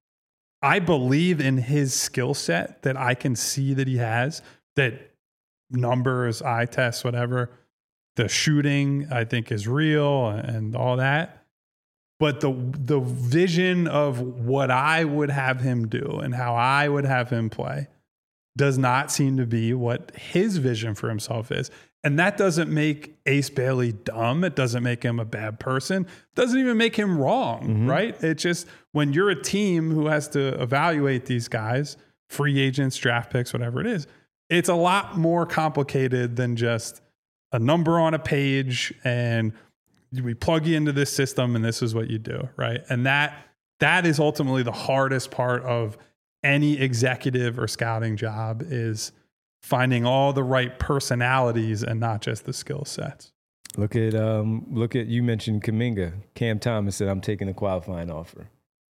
I believe in his skill set that I can see that he has, that numbers, eye tests, whatever, the shooting I think is real and all that. But the vision of what I would have him do and how I would have him play does not seem to be what his vision for himself is. And that doesn't make Ace Bailey dumb. It doesn't make him a bad person. It doesn't even make him wrong, right? It's just when you're a team who has to evaluate these guys, free agents, draft picks, whatever it is, it's a lot more complicated than just a number on a page and we plug you into this system and this is what you do, right? And that is ultimately the hardest part of any executive or scouting job is finding all the right personalities and not just the skill sets. Look at you mentioned Kuminga. Cam Thomas said, I'm taking the qualifying offer.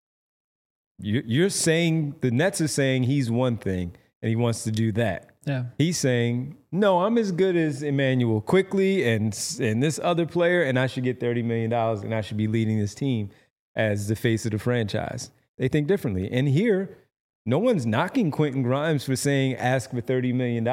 You're saying the Nets are saying he's one thing and he wants to do that. Yeah. He's saying, no, I'm as good as Emmanuel Quickley and this other player, and I should get $30 million and I should be leading this team as the face of the franchise. They think differently. And here, no one's knocking Quentin Grimes for saying ask for $30 million,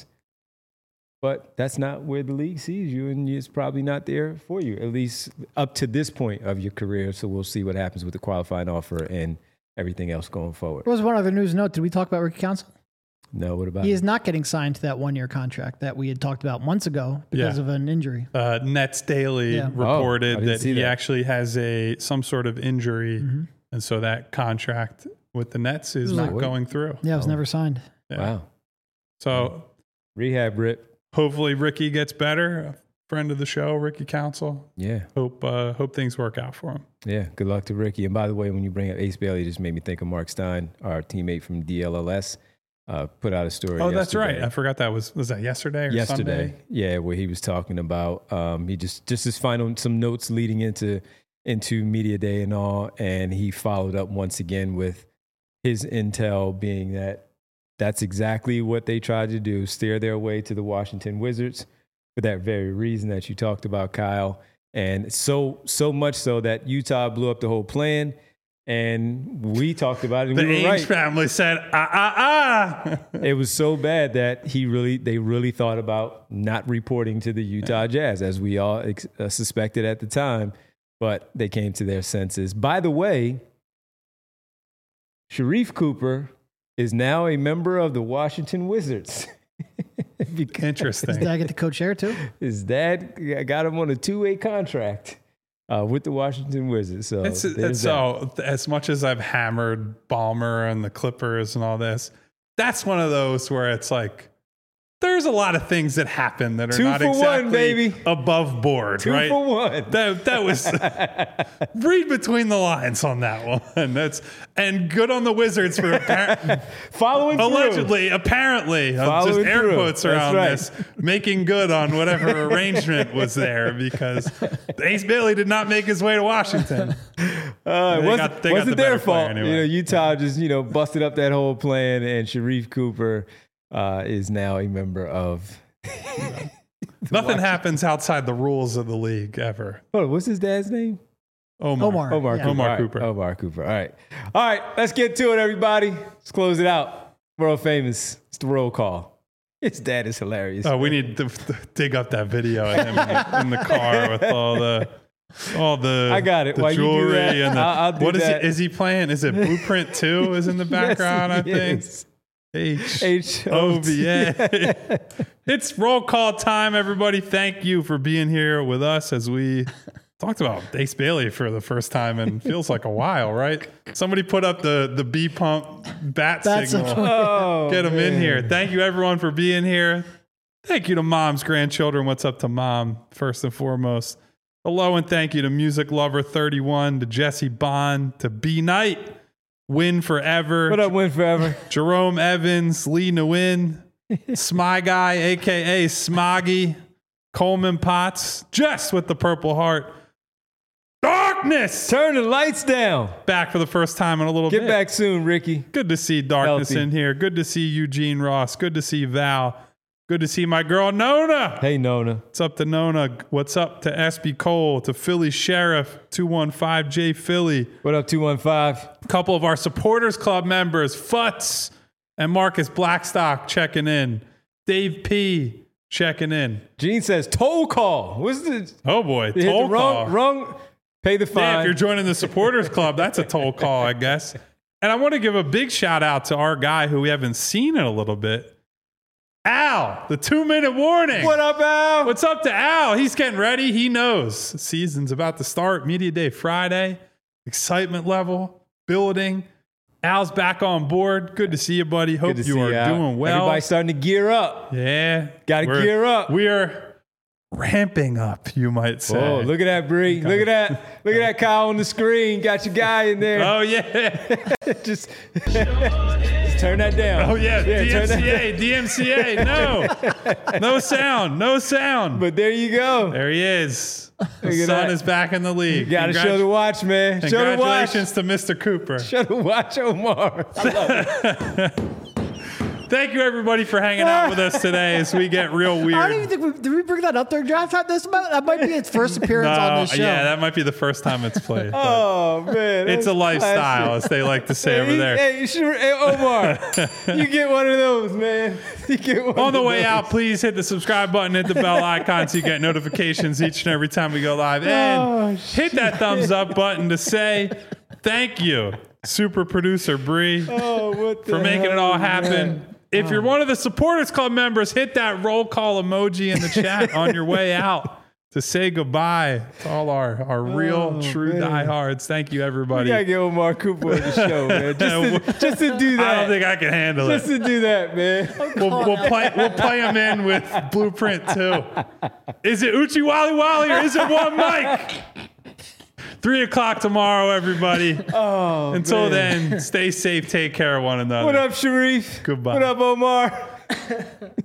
but that's not where the league sees you, and it's probably not there for you, at least up to this point of your career. So we'll see what happens with the qualifying offer and everything else going forward. There was one other news note. Did we talk about Ricky Council? No, what about He is not getting signed to that 1-year contract that we had talked about months ago because of an injury. Nets Daily reported that he actually has some sort of injury, and so that contract with the Nets is not going through. Yeah, it was never signed. Yeah. Wow. So rehab, Rip. Hopefully Ricky gets better. A friend of the show, Ricky Council. Yeah. Hope things work out for him. Yeah. Good luck to Ricky. And by the way, when you bring up Ace Bailey, it just made me think of Mark Stein, our teammate from DLLS. Put out a story. Oh, that's right. I forgot that was that yesterday or Sunday? Yeah, where he was talking about he just his final some notes leading into media day and all, and he followed up once again with his intel being that that's exactly what they tried to do, steer their way to the Washington Wizards for that very reason that you talked about, Kyle. And so much so that Utah blew up the whole plan. And we talked about it. And the we were Ainge family said, It was so bad that they really thought about not reporting to the Utah Jazz, as we all suspected at the time. But they came to their senses. By the way, Sharif Cooper is now a member of the Washington Wizards. Interesting. Did I get the co-chair too? His dad got him on a 2-way contract with the Washington Wizards. So, so as much as I've hammered Ballmer and the Clippers and all this, that's one of those where it's like, there's a lot of things that happen that are 2 not for exactly 1, baby. above board, 2 right? for 1. That was read between the lines on that one. And good on the Wizards for following through. Apparently, just air through. quotes around That's this, making good on whatever arrangement was there, because Ace Bailey did not make his way to Washington. Wasn't the their better player fault. anyway. Utah just busted up that whole plan, and Sharif Cooper is now a member of. Nothing happens outside the rules of the league ever. Oh, what's his dad's name? Omar. Omar Cooper. Omar Cooper. All right. Let's get to it, everybody. Let's close it out. World famous. It's the roll call. His dad is hilarious. Oh, we need to dig up that video of him in the car with all the I got it. the While you do jewelry that, and I'll do what is that. he? Is he playing? Is it Blueprint 2 is in the background? Yes, I think. yes. HOVA. It's roll call time, everybody. Thank you for being here with us as we talked about Ace Bailey for the first time and feels like a while, right? Somebody put up the B pump bat signal. Oh, Get them man. in here. Thank you, everyone, for being here. Thank you to mom's grandchildren. What's up to mom, first and foremost. Hello, and thank you to Music Lover 31, to Jesse Bond, to B Knight. Win Forever. What up, Win Forever? Jerome Evans, Lee Nguyen, Smy Guy, a.k.a. Smoggy, Coleman Potts, Jess with the Purple Heart. Darkness! Turn the lights down. Back for the first time in a little bit. Get back soon, Ricky. Good to see Darkness Healthy. in here. Good to see Eugene Ross. Good to see Val. Good to see my girl Nona. Hey, Nona. What's up to Nona? What's up to SB Cole, to Philly Sheriff, 215J Philly. What up, 215? A couple of our supporters club members, Futz and Marcus Blackstock, checking in. Dave P checking in. Gene says toll call. What's the Oh boy, they hit toll the call. wrong pay the fine. Yeah, if you're joining the supporters club, that's a toll call, I guess. And I want to give a big shout out to our guy who we haven't seen in a little bit. Al, the 2-minute warning. What up, Al? What's up to Al? He's getting ready. He knows. Season's about to start. Media Day Friday. Excitement level building. Al's back on board. Good to see you, buddy. Hope Good to you see are Al. doing well. Everybody's starting to gear up. Yeah. Gotta gear up. We are ramping up, you might say. Oh, look at that, Bree. Look at that. Look at that Kyle on the screen. Got your guy in there. Oh, yeah. just turn that down. Oh, yeah. turn that DMCA. No. No sound. No sound. But there you go. There he is. The Look at son that. is back in the league. You got to show the watch, man. Show the watch. Congratulations to Mr. Cooper. Show the watch, Omar. I love it. Thank you, everybody, for hanging out with us today as we get real weird. I don't even think did we bring that up during draft time? That might be its first appearance on this show. Yeah, that might be the first time it's played. but Oh, man. it's a that's lifestyle, classic. as they like to say over there. Hey, Omar, you get one of those, man. You get one On the of way those. out, please hit the subscribe button, hit the bell icon so you get notifications each and every time we go live. And hit that thumbs up button to say thank you, super producer Bree, Oh, what the for making it hell, all man? happen. If you're one of the supporters club members, hit that roll call emoji in the chat on your way out to say goodbye to all our real, true man. diehards. Thank you, We everybody. gotta get Omar Cooper on the show, man. Just to do that. I don't think I can handle Just it. to do that, man. We'll play him in with Blueprint 2. Is it Uchi Wally Wally or is it one Mike? 3 o'clock tomorrow, everybody. Oh, Until man. then, stay safe, take care of one another. What up, Sharif? Goodbye. What up, Omar?